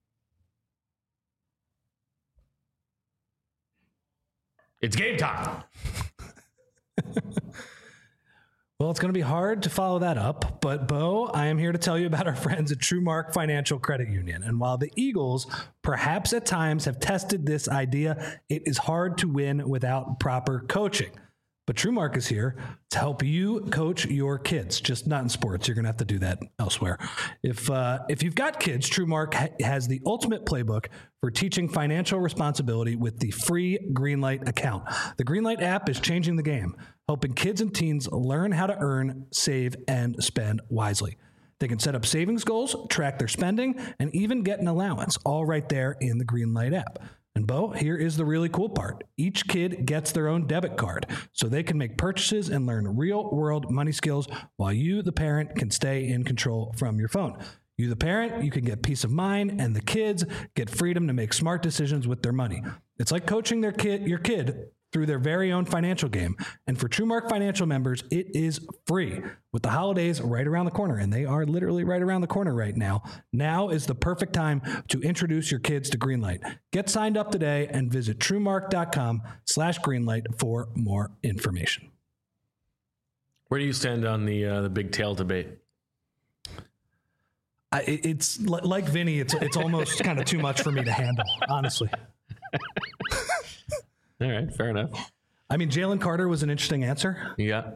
It's game time.
Well, it's going to be hard to follow that up, but Bo, I am here to tell you about our friends at TrueMark Financial Credit Union. And while the Eagles perhaps at times have tested this idea, it is hard to win without proper coaching. But TrueMark is here to help you coach your kids, just not in sports. You're going to have to do that elsewhere. If uh, if you've got kids, TrueMark ha- has the ultimate playbook for teaching financial responsibility with the free Greenlight account. The Greenlight app is changing the game, helping kids and teens learn how to earn, save, and spend wisely. They can set up savings goals, track their spending, and even get an allowance, all right there in the Greenlight app. And Bo, here is the really cool part. Each kid gets their own debit card, so they can make purchases and learn real-world money skills while you, the parent, can stay in control from your phone. You, the parent, you can get peace of mind, and the kids get freedom to make smart decisions with their money. It's like coaching their kid, your kid through their very own financial game. And for TrueMark Financial members, it is free. With the holidays right around the corner, and they are literally right around the corner right now, now is the perfect time to introduce your kids to Greenlight. Get signed up today and visit TrueMark.com slash Greenlight for more information.
Where do you stand on the uh, the big tail debate?
I, it's like Vinny, it's it's almost kind of too much for me to handle, honestly.
All right, fair enough.
I mean, Jalen Carter was an interesting answer.
Yeah.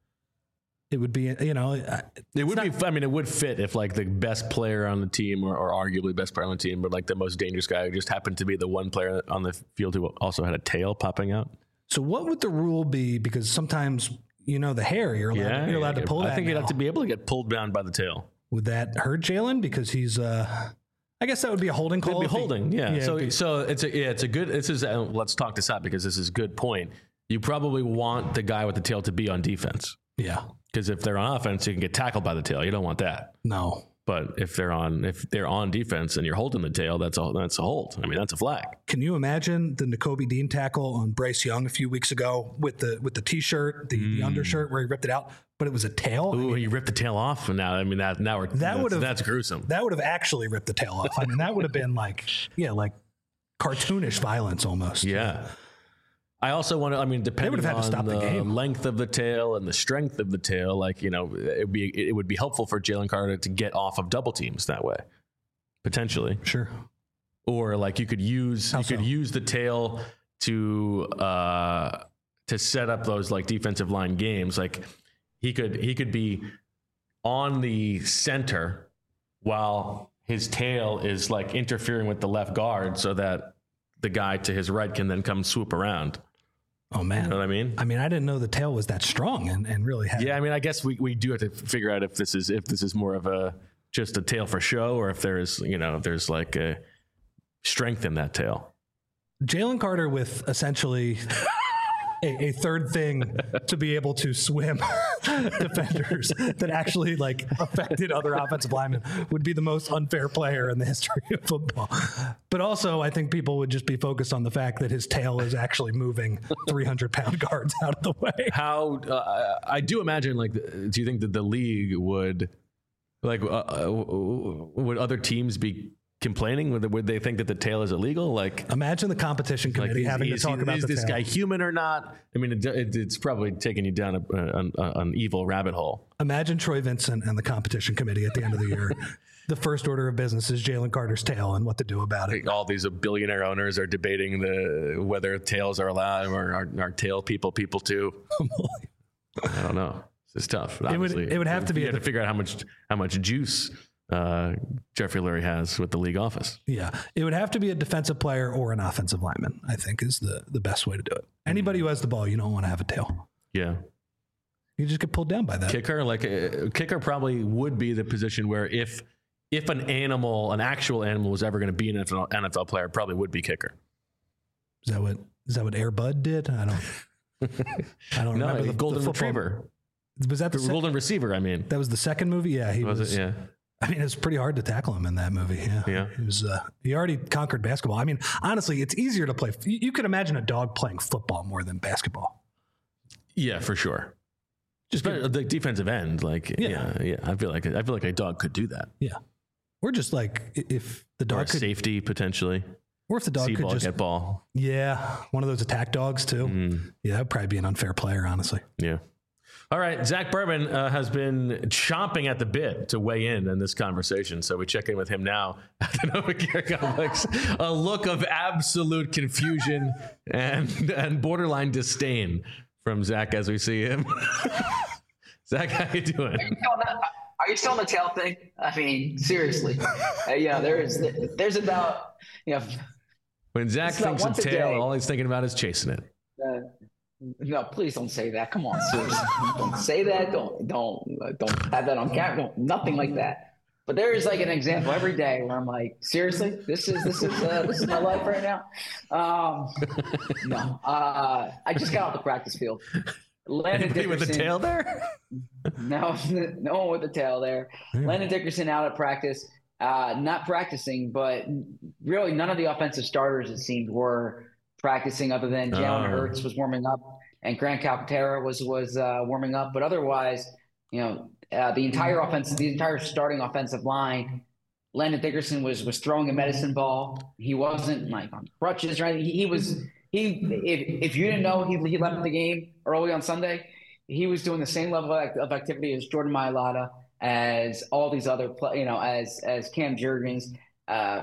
It would be, you know,
it would not, be, I mean, it would fit if like the best player on the team or, or arguably best player on the team, but like the most dangerous guy who just happened to be the one player on the field who also had a tail popping out.
So what would the rule be? Because sometimes, you know, the hair, you're allowed,
yeah,
you're allowed to pull
I
that.
think
now.
you'd have to be able to get pulled down by the tail.
Would that hurt Jalen? Because he's, uh, I guess that would be a holding call.
It'd be holding, he, yeah. yeah. So,
be,
so it's a, yeah, it's a good, this is, uh, let's talk this out because this is a good point. You probably want the guy with the tail to be on defense.
Yeah.
Because if they're on offense, you can get tackled by the tail. You don't want that.
No.
But if they're on if they're on defense and you're holding the tail, that's a that's a hold. I mean, that's a flag.
Can you imagine the Nakobe Dean tackle on Bryce Young a few weeks ago with the with the t-shirt, the, mm. the undershirt where he ripped it out, but it was a tail?
Ooh,
I mean,
he ripped the tail off, and now I mean that now we're
that would have
that's gruesome.
That would have actually ripped the tail off. I mean, that would have been like yeah, like cartoonish violence almost.
Yeah. I also want to, I mean, depending
had
on
to stop
the,
the game.
length of the tail and the strength of the tail, like, you know, it would be, it would be helpful for Jalen Carter to get off of double teams that way, potentially.
Sure.
Or like you could use,
How
you
so?
could use the tail to, uh, to set up those like defensive line games. Like he could, he could be on the center while his tail is like interfering with the left guard so that the guy to his right can then come swoop around.
Oh, man.
You know what I mean?
I mean, I didn't know the tail was that strong and, and really had.
Yeah, I mean, I guess we, we do have to figure out if this is if this is more of a just a tail for show or if there's, you know, if there's like a strength in that tail.
Jalen Carter with essentially a, a third thing to be able to swim defenders that actually like affected other offensive linemen would be the most unfair player in the history of football. But also, I think people would just be focused on the fact that his tail is actually moving three hundred pound guards out of the way.
How uh, I do imagine, like, do you think that the league would, like, uh, would other teams be complaining? Would they, would they think that the tail is illegal? Like,
imagine the competition committee
like is,
having
is,
to talk
is,
about
is
the
this
tail.
guy human or not? I mean, it, it, it's probably taking you down a, a, a, an evil rabbit hole.
Imagine Troy Vincent and the competition committee at the end of the year. The first order of business is Jalen Carter's tail and what to do about it.
All these billionaire owners are debating the whether tails are allowed or are, are tail people people too. I don't know. It's tough.
It would, it would have to be.
You have
the,
to figure out how much how much juice uh, Jeffrey Lurie has with the league office.
Yeah, it would have to be a defensive player or an offensive lineman, I think, is the, the best way to do it. Anybody who has the ball, you don't want to have a tail.
Yeah.
You just get pulled down by that.
Kicker, like a kicker probably would be the position where if if an animal, an actual animal was ever going to be an N F L player, it probably would be kicker.
Is that what is that what Air Bud did? I don't I don't
no,
remember
the
the
golden
the
retriever.
Was that the,
the
sec-
golden receiver, I mean.
That was the second movie? Yeah, he
was,
was
it? Yeah.
I mean, it was pretty hard to tackle him in that movie. Yeah.
Yeah.
He was, uh, he already conquered basketball. I mean, honestly, it's easier to play. You, you could imagine a dog playing football more than basketball.
Yeah, for sure. Just but the defensive end, like, yeah. yeah, yeah. I feel like, I feel like a dog could do that.
Yeah. Or just like if the dog
or
could.
Safety potentially.
Or if the dog
See
could
ball,
just.
Get ball.
Yeah. One of those attack dogs too.
Mm.
Yeah. That'd probably be an unfair player, honestly.
Yeah. All right, Zach Berman uh, has been chomping at the bit to weigh in in this conversation, so we check in with him now at the Novacare Complex. A look of absolute confusion and and borderline disdain from Zach as we see him. Zach, how you doing?
Are you, are you still on the tail thing? I mean, seriously. uh, you know, there's there's about you know.
When Zach thinks of tail, all he's thinking about is chasing it.
Uh, No, please don't say that. Come on, seriously. Don't say that. Don't don't don't have that on camera. Don't, nothing like that. But there is like an example every day where I'm like, seriously, this is this is uh, this is my life right now. Um, no, uh, I just got off the practice field.
Landon Dickerson with the tail there.
No, no one with the tail there. Yeah. Landon Dickerson out at practice, uh, not practicing, but really none of the offensive starters it seemed were practicing other than Jalen
oh.
Hurts was warming up and Grant Calcaterra was was uh, warming up, but otherwise, you know, uh, the entire offensive, the entire starting offensive line, Landon Dickerson was was throwing a medicine ball. He wasn't like on crutches or anything. He, he was he if if you didn't know he he left the game early on Sunday, he was doing the same level of activity as Jordan Mailata, as all these other you know as as Cam Jurgens, uh,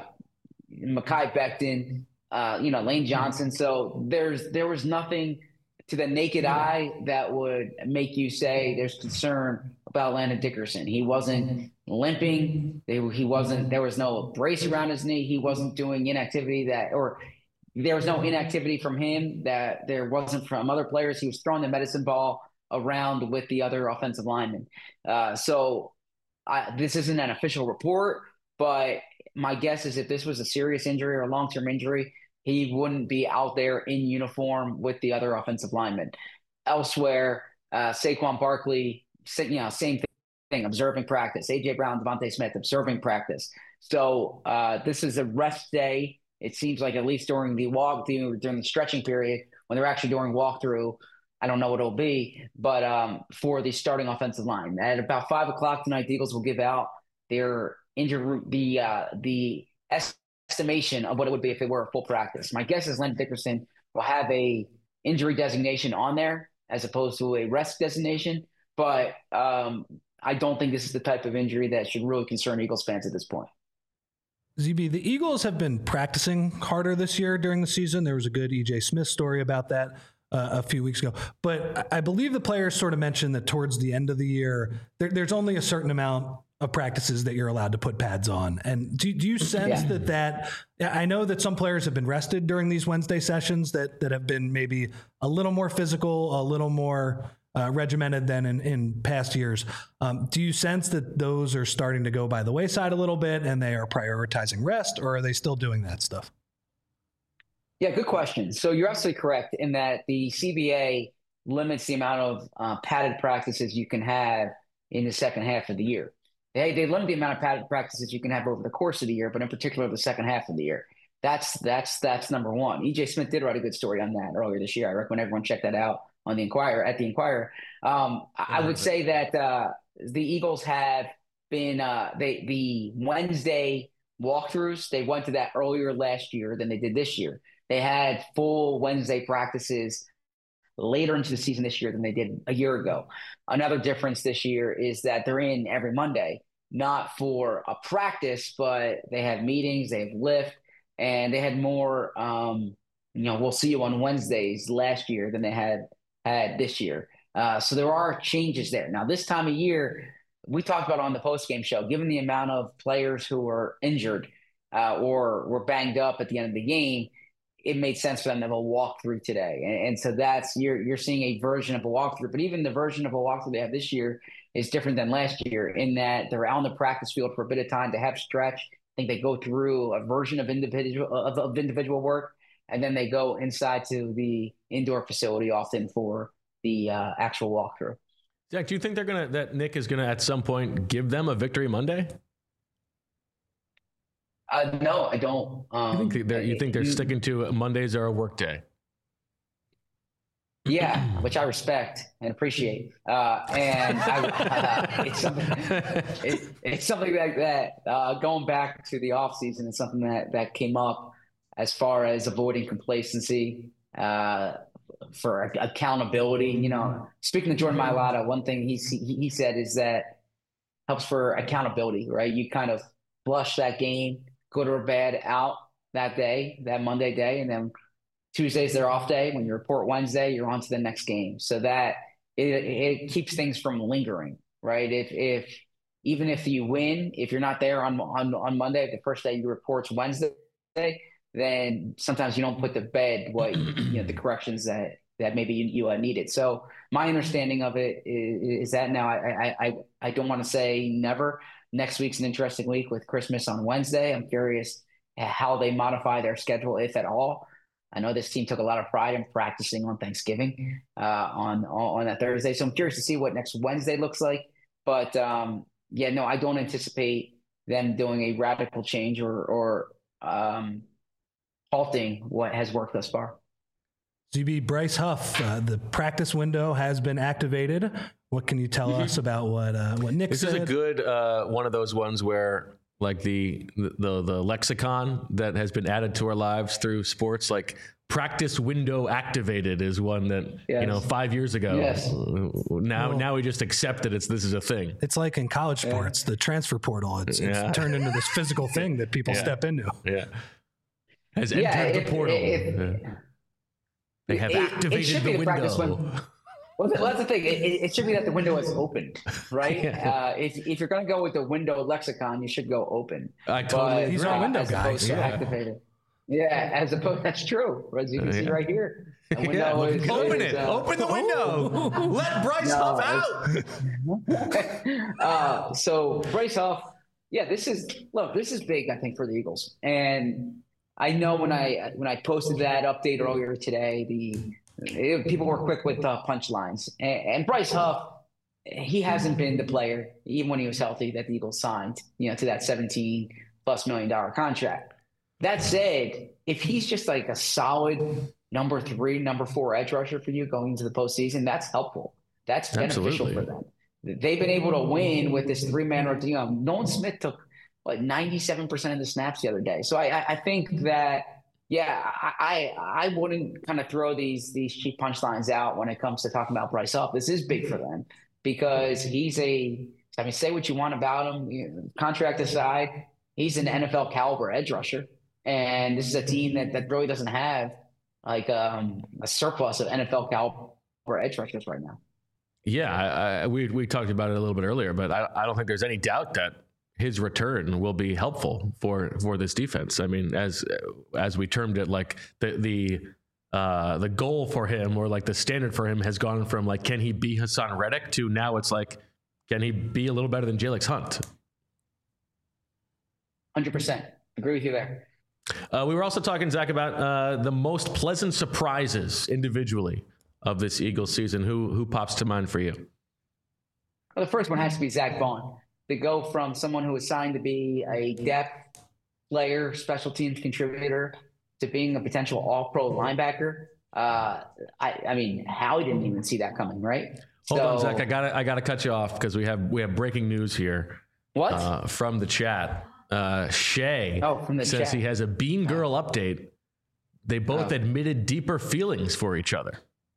Mekhi Becton. Uh, you know, Lane Johnson. So there's there was nothing to the naked eye that would make you say there's concern about Landon Dickerson. He wasn't limping. They, he wasn't. There was no brace around his knee. He wasn't doing inactivity that, or there was no inactivity from him that there wasn't from other players. He was throwing the medicine ball around with the other offensive linemen. Uh, so I, this isn't an official report, but my guess is if this was a serious injury or a long-term injury, he wouldn't be out there in uniform with the other offensive linemen. Elsewhere, uh, Saquon Barkley, you know, same thing, observing practice. A J Brown, Devontae Smith, observing practice. So uh, this is a rest day. It seems like at least during the walk, during the stretching period, when they're actually doing walkthrough, I don't know what it'll be, but um, for the starting offensive line. At about five o'clock tonight, the Eagles will give out their injury, the uh, the S. estimation of what it would be if it were a full practice. My guess is Landon Dickerson will have a injury designation on there as opposed to a rest designation, but um, I don't think this is the type of injury that should really concern Eagles fans at this point.
Z B, the Eagles have been practicing harder this year during the season. There was a good E J Smith story about that uh, a few weeks ago, but I believe the players sort of mentioned that towards the end of the year, there, there's only a certain amount of practices that you're allowed to put pads on. And do, do you sense yeah. that that, I know that some players have been rested during these Wednesday sessions that, that have been maybe a little more physical, a little more uh, regimented than in, in past years. Um, do you sense that those are starting to go by the wayside a little bit and they are prioritizing rest, or are they still doing that stuff?
Yeah, good question. So you're absolutely correct in that the C B A limits the amount of uh, padded practices you can have in the second half of the year. They, they limit the amount of padded practices you can have over the course of the year, but in particular the second half of the year. That's that's that's number one. E J Smith did write a good story on that earlier this year. I recommend everyone check that out on the Inquirer at the Inquirer. Um, I, I would say that uh, the Eagles have been uh, they the Wednesday walkthroughs. They went to that earlier last year than they did this year. They had full Wednesday practices later into the season this year than they did a year ago. Another difference this year is that they're in every Monday, not for a practice, but they have meetings, they have lift, and they had more, um, you know, we'll see you on Wednesdays last year than they had had this year. Uh, so there are changes there. Now, this time of year, we talked about on the postgame show, given the amount of players who were injured uh, or were banged up at the end of the game, it made sense for them to have a walkthrough today. And, and so that's, you're, you're seeing a version of a walkthrough, but even the version of a walkthrough they have this year is different than last year in that they're out on the practice field for a bit of time to have stretch. I think they go through a version of individual of, of individual work, and then they go inside to the indoor facility often for the uh, actual walkthrough.
Zach, do you think they're going to, that Nick is going to at some point give them a victory Monday?
Uh, no, I don't. Um,
you think they're, you think they're
you,
sticking to Mondays are a work day?
Yeah, which I respect and appreciate. Uh, and I, uh, it's something, it, it's something like that. Uh, going back to the offseason, it's something that, that came up as far as avoiding complacency, uh, for accountability. You know, speaking to Jordan Mailata, one thing he, he said is that helps for accountability, right? You kind of flush that game, good or bad, out that day, that Monday day, and then Tuesday's their off day. When you report Wednesday, you're on to the next game. So that it, it keeps things from lingering, right? If if even if you win, if you're not there on on on Monday, the first day you report's Wednesday, then sometimes you don't put to bed what you know the corrections that that maybe you, you uh, needed. So my understanding of it is, is that now I I I, I don't want to say never. Next week's an interesting week with Christmas on Wednesday. I'm curious how they modify their schedule, if at all. I know this team took a lot of pride in practicing on Thanksgiving uh, on on that Thursday. So I'm curious to see what next Wednesday looks like. But um, yeah, no, I don't anticipate them doing a radical change or or um, halting what has worked thus far.
Z B, Bryce Huff, uh, the practice window has been activated. What can you tell mm-hmm. us about what uh, what Nick
this
said?
This is a good uh, one of those ones where like the, the the lexicon that has been added to our lives through sports, like practice window activated is one that yes. you know five years ago.
Yes.
Now well, now we just accept that it's this is a thing.
It's like in college sports, yeah. the transfer portal. It's, yeah. it's turned into this physical thing that people
yeah.
step into.
Yeah, has
yeah,
entered
it,
the portal.
It, it,
yeah. They have
it,
activated
it
the,
the
window.
Well, that's the thing. It, it should be that the window is open, right? yeah. uh, if if you're going to go with the window lexicon, you should go open.
I totally.
But,
He's our window guy.
Yeah. Activated. Yeah, as opposed that's true. As you can see right here. The window
yeah.
is,
open
is,
it.
Uh,
open the window. Let Bryce
no,
Huff
out. uh, so Bryce Huff. Yeah, this is look. This is big, I think, for the Eagles. And I know when I when I posted that update earlier today, the It, people were quick with uh, punchlines. And, and Bryce Huff, he hasn't been the player, even when he was healthy, that the Eagles signed, you know, to that seventeen plus million dollar contract. That said, if he's just like a solid number three, number four edge rusher for you going into the postseason, that's helpful. That's beneficial
Absolutely.
for them. They've been able to win with this three-man rotation. You know, Nolan Smith took like ninety-seven percent of the snaps the other day. So I, I think that Yeah, I, I I wouldn't kind of throw these these cheap punchlines out when it comes to talking about Bryce Huff. This is big for them because he's a, I mean, say what you want about him, you know, contract aside, he's an N F L caliber edge rusher. And this is a team that, that really doesn't have like um, a surplus of N F L caliber edge rushers right now.
Yeah, I, I, we we talked about it a little bit earlier, but I, I don't think there's any doubt that his return will be helpful for, for this defense. I mean, as as we termed it, like the the uh, the goal for him, or like the standard for him, has gone from like, can he be Hassan Reddick, to now it's like, can he be a little better than Jalex Hunt?
one hundred percent agree with you there.
Uh, we were also talking, Zach, about uh, the most pleasant surprises individually of this Eagles season. Who who pops to mind for you?
Well, the first one has to be Zach Vaughn. To go from someone who was signed to be a depth player, special teams contributor, to being a potential all-pro linebacker. Uh, I, I mean, Howie didn't even see that coming, right?
Hold
so,
on, Zach. I gotta I gotta cut you off because we have we have breaking news here.
What?
Uh, from the chat. uh, Shay
Oh, from the
says
chat.
he has a Bean Girl update. They both
Oh.
admitted deeper feelings for each other.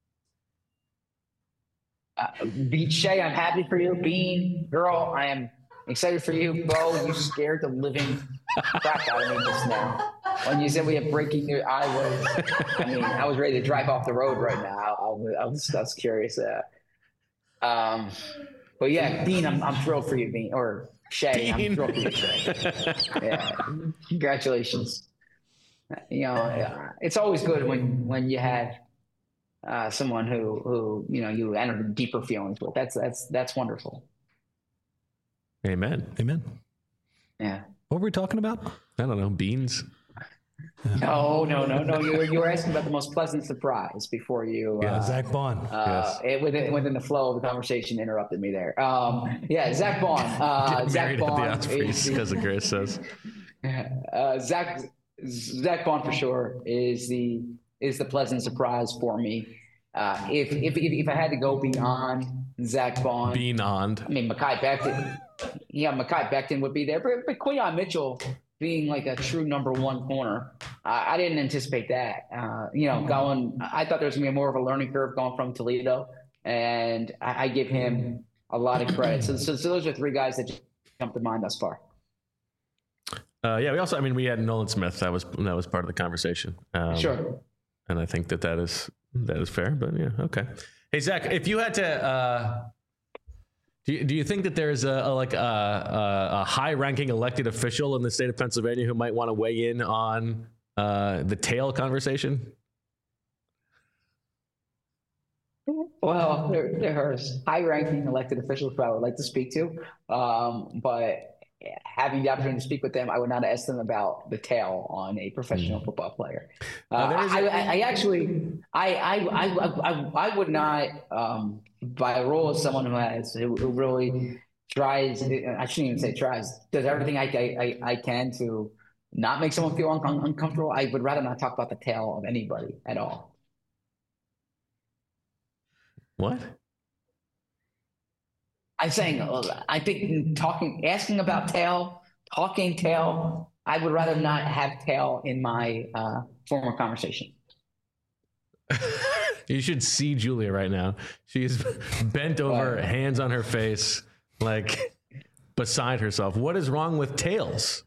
Uh, Beat Shay, I'm happy for you. Bean Girl, I am excited for you. Bo, you scared the living crap out of me just now. When you said we have breaking news, I was, I mean, I was ready to drive off the road right now. I, I, was, I, was, I was curious. Uh, um, but yeah, Bean, I'm, I'm thrilled for you, Bean. Or Shay,
Bean.
I'm thrilled for you, Shay. Yeah, congratulations. You know, uh, it's always good when when you have uh, someone who who you know you enter deeper feelings with. That's that's that's wonderful.
Amen.
Amen.
Yeah.
What were we talking about?
I don't know. Beans.
No, no, no, no. You were you were asking about the most pleasant surprise before you.
Yeah,
uh,
Zach Bond.
Uh, it, within, within the flow of the conversation, interrupted me there. Um, yeah, Zach Bond. Uh,
Get
Zach
married at the
Bond
Ospreys,
is
because of Grace says.
uh, Zach Zach Bond for sure is the is the pleasant surprise for me. Uh, if, if if if I had to go beyond Zach Bond,
Beyond.
I mean Mekhi Becton, yeah, Mekhi Becton would be there, but, but Quinyon Mitchell being like a true number one corner, I, I didn't anticipate that. Uh, you know, going, I thought there was gonna be more of a learning curve going from Toledo, and I, I give him a lot of credit. So, so, so those are three guys that jumped to mind thus far.
Uh, yeah, we also, I mean, we had Nolan Smith. That was that was part of the conversation. Um,
Sure.
And I think that that is that is fair. But yeah, okay. Hey Zach, if you had to, uh, do you, do you think that there's a, a like a, a, a high-ranking elected official in the state of Pennsylvania who might want to weigh in on uh, the tail conversation?
Well, there, there's high-ranking elected officials who I would like to speak to, um, but having the opportunity to speak with them, I would not ask them about the tail on a professional football player. Uh,
there is
I,
a-
I, I actually, I, I, I, I, I would not, um, by a role as someone who has, who, who really tries, I shouldn't even say tries, does everything I, I, I can to not make someone feel un- uncomfortable. I would rather not talk about the tail of anybody at all.
What?
I'm saying, uh, I think talking, asking about tail, talking tail, I would rather not have tail in my uh, former conversation.
You should see Julia right now. She is bent over,
Right.
hands on her face, like beside herself. What is wrong with tails?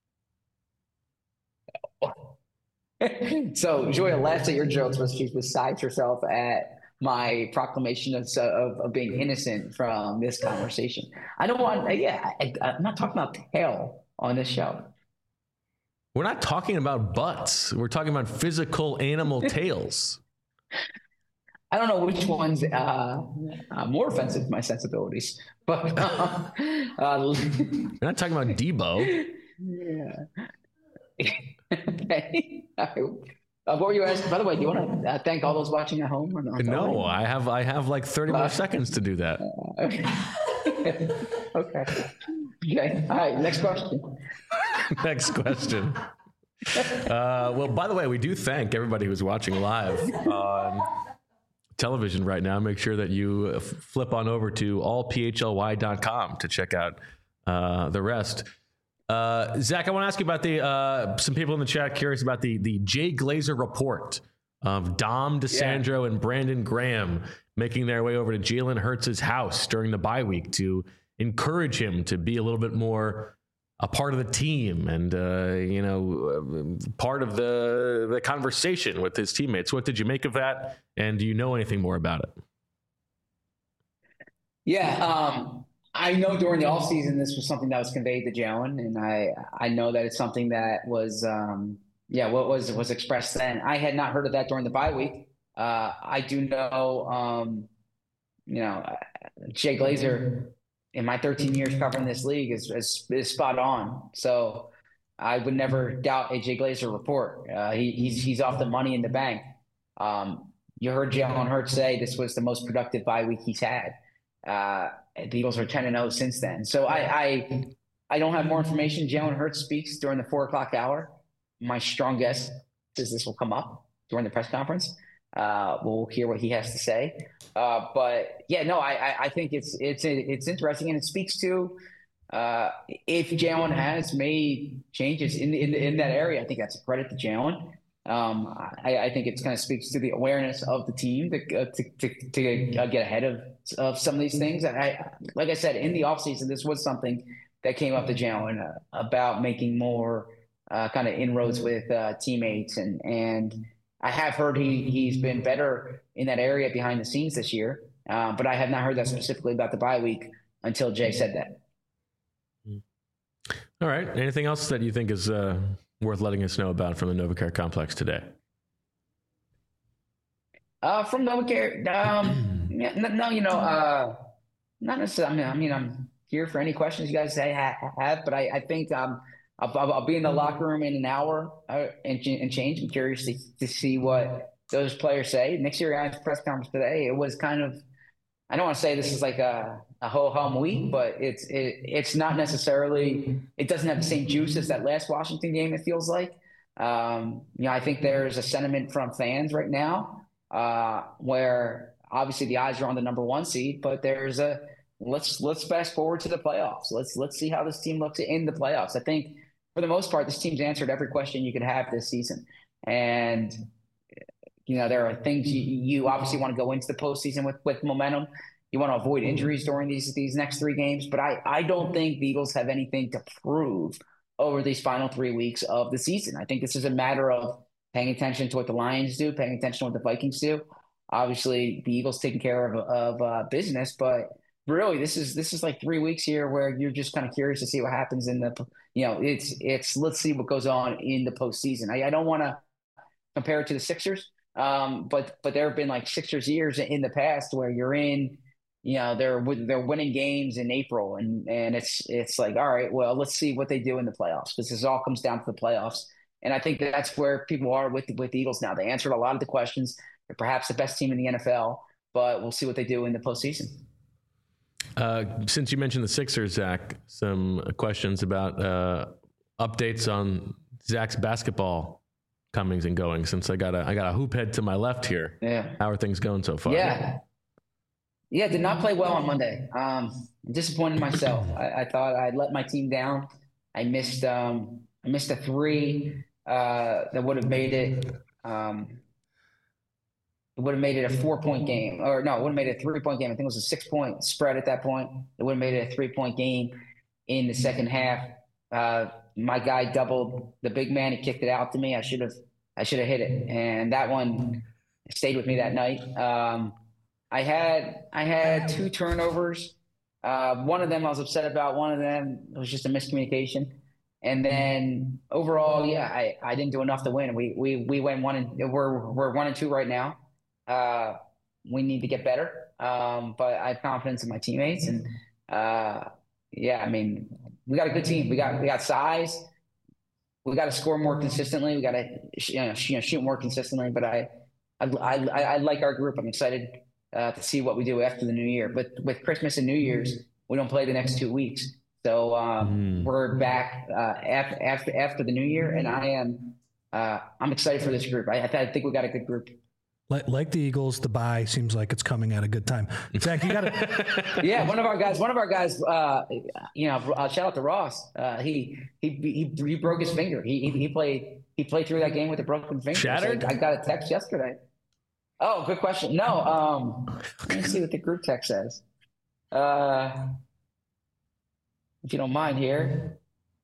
So Julia laughs at your jokes, but she's beside herself at my proclamation of, of, of being innocent from this conversation. I don't want, yeah, I, I'm not talking about tail on this show.
We're not talking about butts. We're talking about physical animal tails.
I don't know which one's uh, uh, more offensive to my sensibilities, but uh, uh,
We're not talking about Debo.
yeah. Okay. Uh, what were you asking? By the way, do you want to uh, thank all those watching at home? Or not?
No, I have I have like thirty more seconds to do that.
Okay. Okay. Okay. All right. Next question.
Next question. Uh, well, by the way, we do thank everybody who's watching live on television right now. Make sure that you f- flip on over to all p h l y dot com to check out uh, the rest. Uh, Zach, I want to ask you about the uh, some people in the chat curious about the the Jay Glazer report of Dom DeSandro and Brandon Graham making their way over to Jalen Hurts' house during the bye week to encourage him to be a little bit more a part of the team and uh, you know part of the the conversation with his teammates. What did you make of that? And do you know anything more about it?
Yeah. Um, I know during the offseason, this was something that was conveyed to Jalen, and I I know that it's something that was um, yeah what was was expressed then. I had not heard of that during the bye week. Uh, I do know um, you know Jay Glazer in my thirteen years covering this league is is, is spot on. So I would never doubt a Jay Glazer report. Uh, he, he's he's off the money in the bank. Um, you heard Jalen Hurts say this was the most productive bye week he's had. Uh, the Eagles are ten and oh since then. So I, I, I don't have more information. Jalen Hurts speaks during the four o'clock hour. My strong guess is this will come up during the press conference. Uh, we'll hear what he has to say. Uh, but yeah, no, I, I, I think it's, it's, it's interesting, and it speaks to uh, if Jalen has made changes in, in in that area, I think that's a credit to Jalen. Um, I, I think it kind of speaks to the awareness of the team to uh, to, to, to uh, get ahead of of some of these things. And I, like I said, in the offseason, this was something that came up to Jalen uh, about making more uh, kind of inroads with uh, teammates, and and I have heard he he's been better in that area behind the scenes this year, uh, but I have not heard that specifically about the bye week until Jay said that.
All right. Anything else that you think is uh, worth letting us know about from the NovaCare complex today?
Uh, from NovaCare, um, yeah, no, no, you know, uh, not necessarily. I mean, I mean, I'm here for any questions you guys have, but I, I think um, I'll, I'll be in the locker room in an hour uh, and, and change. I'm curious to, to see what those players say. Nick Sirianni's press conference today, it was kind of, I don't want to say this is like a, a ho-hum week, but it's it, it's not necessarily, it doesn't have the same juice as that last Washington game, it feels like. Um, you know, I think there's a sentiment from fans right now uh, where obviously the eyes are on the number one seed, but there's a, let's let's fast forward to the playoffs. Let's let's see how this team looks in the playoffs. I think for the most part, this team's answered every question you could have this season. And you know, there are things you, you obviously want to go into the postseason with, with momentum. You want to avoid injuries during these these next three games. But I, I don't think the Eagles have anything to prove over these final three weeks of the season. I think this is a matter of paying attention to what the Lions do, paying attention to what the Vikings do. Obviously, the Eagles taking care of, of uh, business, but really, this is this is like three weeks here where you're just kind of curious to see what happens in the, you know, it's it's let's see what goes on in the postseason. I, I don't want to compare it to the Sixers. Um, but but there have been like Sixers years in the past where you're in, you know, they're they're winning games in April, and and it's it's like, all right, well, let's see what they do in the playoffs, because this all comes down to the playoffs. And I think that's where people are with with the Eagles now. They answered a lot of the questions. They're perhaps the best team in the N F L, but we'll see what they do in the postseason.
Uh, since you mentioned the Sixers, Zach, some questions about uh, updates on Zach's basketball comings and goings. Since I got a I got a hoop head to my left here.
Yeah.
How are things going so far?
Yeah. Yeah, did not play well on Monday. Um, disappointed myself. I, I thought I'd let my team down. I missed um, I missed a three uh, that would have made it. Um, it would have made it a four-point game, or no, it would have made it a three-point game. I think it was a six-point spread at that point. It would have made it a three-point game in the second half. Uh, my guy doubled the big man. He kicked it out to me. I should have, I should have hit it, and that one stayed with me that night. Um, I had, I had two turnovers. Uh, one of them I was upset about. One of them was just a miscommunication. And then overall, yeah, I, I didn't do enough to win. We we we went one and we're we're one and two right now. Uh, we need to get better. Um, but I have confidence in my teammates, and uh, yeah, I mean, we got a good team. We got we got size. We got to score more consistently. We got to you know, shoot more consistently. But I I, I I like our group. I'm excited uh, to see what we do after the new year. But with Christmas and New Year's, we don't play the next two weeks. So um, mm. we're back uh, after, after after the new year, and I am uh, I'm excited for this group. I, I think we got a good group.
Like, like the Eagles, the bye seems like it's coming at a good time. Zach, you got to.
Yeah, one of our guys. One of our guys. Uh, you know, uh, shout out to Ross. Uh, he, he he he broke his finger. He he, he played he played through that game with a broken finger.
Shattered.
So I got a text yesterday. Oh, good question. No, um, let me see what the group text says. Uh. If you don't mind here.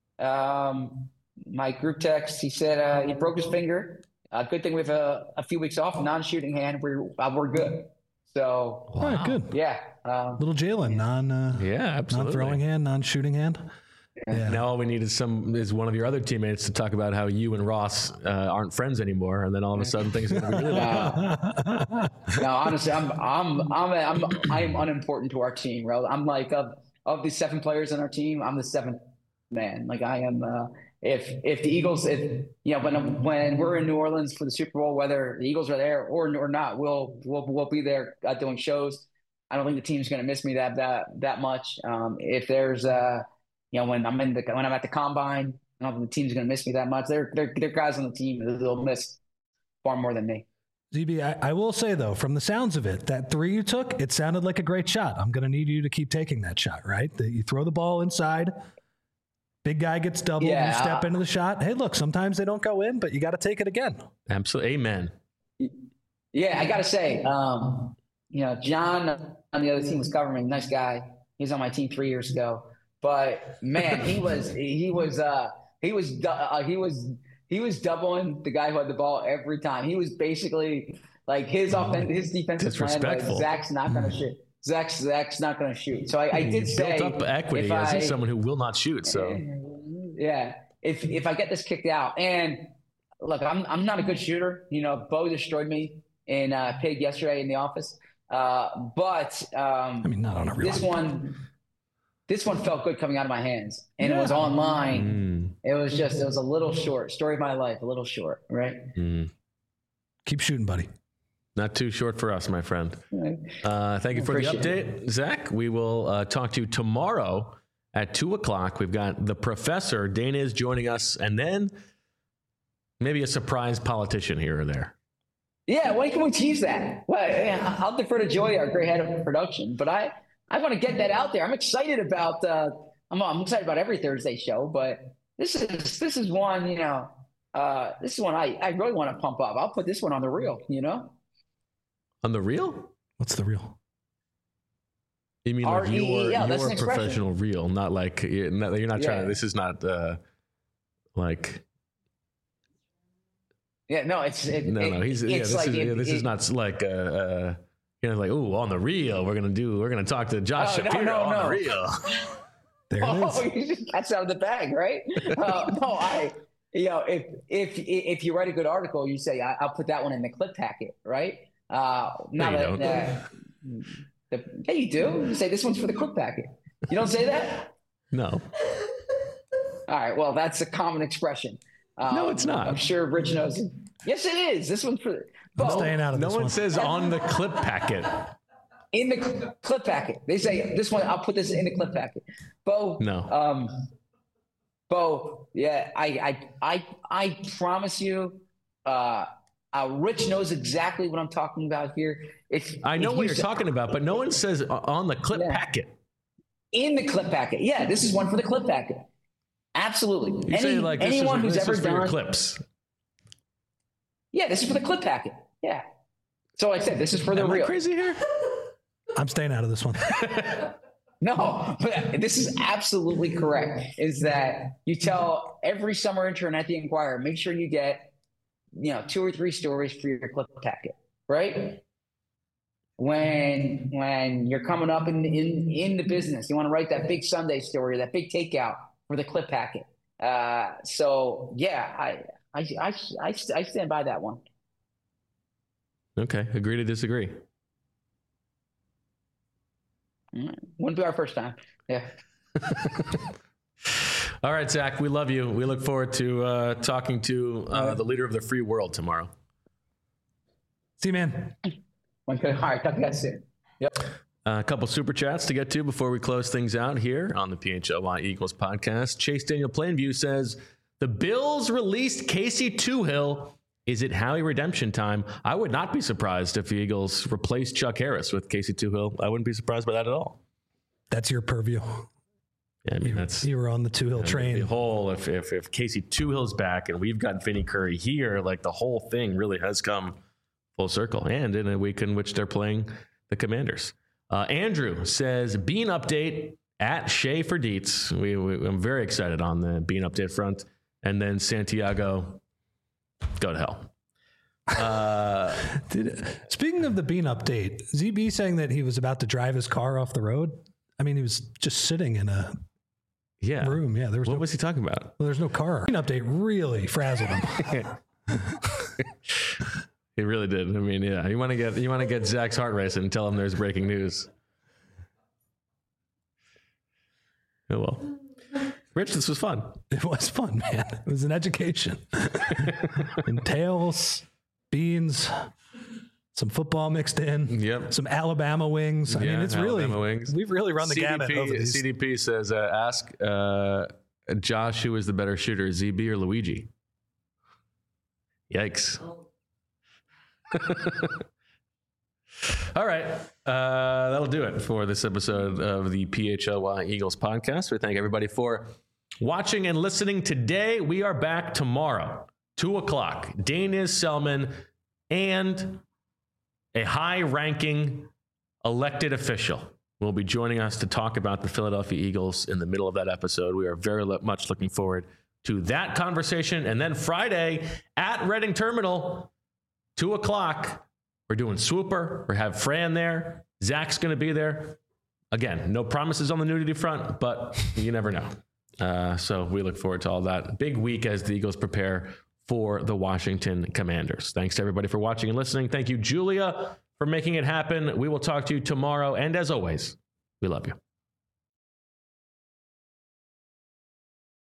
Um, my group text, he said uh, he broke his finger. Uh, good thing we have a, a few weeks off, non-shooting hand. We're uh, we're good. So,
wow. All right, good.
Yeah. Um,
Little Jalen, non uh,
yeah, absolutely.
non-throwing hand, non-shooting hand.
Yeah. Now all we need is some is one of your other teammates to talk about how you and Ross uh, aren't friends anymore, and then all of a sudden things are going to be really bad.
No, honestly, I'm I'm I'm I'm I'm unimportant to our team, bro. I'm like of of the seven players on our team, I'm the seventh man. Like I am. Uh, if if the Eagles, if you know, when when we're in New Orleans for the Super Bowl, whether the Eagles are there or or not, we'll we'll we'll be there uh, doing shows. I don't think the team's going to miss me that that that much. Um, if there's uh, you know, when I'm in the when I'm at the combine, I don't think the team's going to miss me that much. They're they're they're guys on the team that'll miss far more than me.
Z B, I, I will say, though, from the sounds of it, that three you took, it sounded like a great shot. I'm going to need you to keep taking that shot, right? That you throw the ball inside, big guy gets doubled,
Yeah.
you step into the shot. Hey, look, sometimes they don't go in, but you got to take it again.
Absolutely. Amen.
Yeah, I got to say, um, you know, John on the other team was covering me. Nice guy. He was on my team three years ago. But man, he was he was uh, he was uh, he was he was doubling the guy who had the ball every time. He was basically like his offense, his defensive plan was Zach's not going to shoot. Zach's Zach's not going to shoot. So I, I did
He
say
built up equity as
I,
someone who will not shoot. So
yeah, if if I get this kicked out, and look, I'm I'm not a good shooter. You know, Bo destroyed me in uh, Pig yesterday in the office. Uh, but um,
I mean, not on a real
this one. This one felt good coming out of my hands, and yeah. It was online. Mm. It was just, it was a little short. Story of my life, a little short, right?
Mm.
Keep shooting, buddy.
Not too short for us, my friend. Uh, thank you for the update, it. Zach. We will uh, talk to you tomorrow at two o'clock. We've got the professor, Dana, is joining us, and then maybe a surprise politician here or there.
Yeah, when can we tease that? Well, yeah, I'll defer to Joy, our great head of production, but I. I want to get that out there. I'm excited about. Uh, I'm, I'm excited about every Thursday show, but this is this is one. You know, uh, this is one I, I really want to pump up. I'll put this one on the reel. You know,
on the reel.
What's the reel?
You mean like your your professional reel, not like you're not, you're not trying. Yeah. To, this is not uh, like.
Yeah. No. It's it,
no.
It,
no. He's yeah. This
like
is
it,
yeah, this
it,
is not like. Uh, uh, You know, like, ooh, on the reel, we're gonna do, we're gonna talk to Josh
oh,
Shapiro
no, no,
on
no.
the reel.
There it
oh,
is.
You just catch out of the bag, right? uh, no, I, you know, if if if you write a good article, you say I, I'll put that one in the clip packet, right? Uh,
no, you don't.
Uh, the, yeah, you do. You say this one's for the clip packet. You don't say that?
No.
All right. Well, that's a common expression. Um,
no, it's not.
I'm sure Rich knows it. Yes, it is. This one's for.
I'm staying out of
no
this
one
one.
says on the clip packet.
In the clip packet. They say this one, I'll put this in the clip packet. Bo.
No.
Um, Bo, yeah, I I I I promise you, uh, uh Rich knows exactly what I'm talking about here. If
I know
if
what
you
you're
say,
talking about, but no one says on the clip
yeah.
packet.
In the clip packet. Yeah, this is one for the clip packet. Absolutely.
You
Any,
say like this
anyone
is,
who's
this
ever
is for
done
your clips.
Yeah, this is for the clip packet. Yeah. So like I said, this is for the
Am
real.
I crazy here?
I'm staying out of this one.
No, but this is absolutely correct. Is that you tell every summer intern at the Inquirer, make sure you get, you know, two or three stories for your clip packet, right? When when you're coming up in in in the business, you want to write that big Sunday story, that big takeout for the clip packet. Uh, so yeah, I I I I, I stand by that one.
Okay, agree to disagree.
Wouldn't be our first time. Yeah.
All right, Zach, we love you. We look forward to uh, talking to uh, the leader of the free world tomorrow.
See you, man.
Okay. All right. Talk to you guys soon. Yep.
Uh, a couple super chats to get to before we close things out here on the P H L Y Eagles podcast. Chase Daniel Plainview says, the Bills released Casey Toohill. Is it Howie redemption time? I would not be surprised if the Eagles replaced Chuck Harris with Casey Toohill. I wouldn't be surprised by that at all.
That's your purview.
Yeah, I mean,
you,
that's
you were on the Toohill train.
The whole, if, if if Casey Toohill's back and we've got Vinny Curry here, like the whole thing really has come full circle. And in a week in which they're playing the Commanders. Uh, Andrew says, Bean update at Shea for Deets. We, we, I'm very excited on the Bean update front. And then Santiago, go to hell. Uh,
Did, speaking of the Bean update, Z B saying that he was about to drive his car off the road. I mean, he was just sitting in a
yeah.
room. Yeah, there was
what
no,
was he talking about?
Well, there's no car. Bean update really frazzled him.
He really did. I mean, yeah, you want to get you want to get Zach's heart racing and tell him there's breaking news. Oh well. Rich, this was fun.
It was fun, man. It was an education. And tails, beans, some football mixed in.
Yep.
Some Alabama wings. I
yeah,
mean, it's
Alabama
really,
wings.
we've really run the
C D P,
gamut over these.
C D P says, uh, ask uh, Josh who is the better shooter, Z B or Luigi? Yikes. All right. Uh, that'll do it for this episode of the P H L Y Eagles podcast. We thank everybody for watching and listening today. We are back tomorrow, two o'clock. Daniz Selman and a high-ranking elected official will be joining us to talk about the Philadelphia Eagles in the middle of that episode. We are very much looking forward to that conversation. And then Friday at Reading Terminal, two o'clock, we're doing Swooper. We have Fran there. Zach's going to be there. Again, no promises on the nudity front, but you never know. Uh, so we look forward to all that. Big week as the Eagles prepare for the Washington Commanders. Thanks to everybody for watching and listening. Thank you, Julia, for making it happen. We will talk to you tomorrow. And as always, we love you.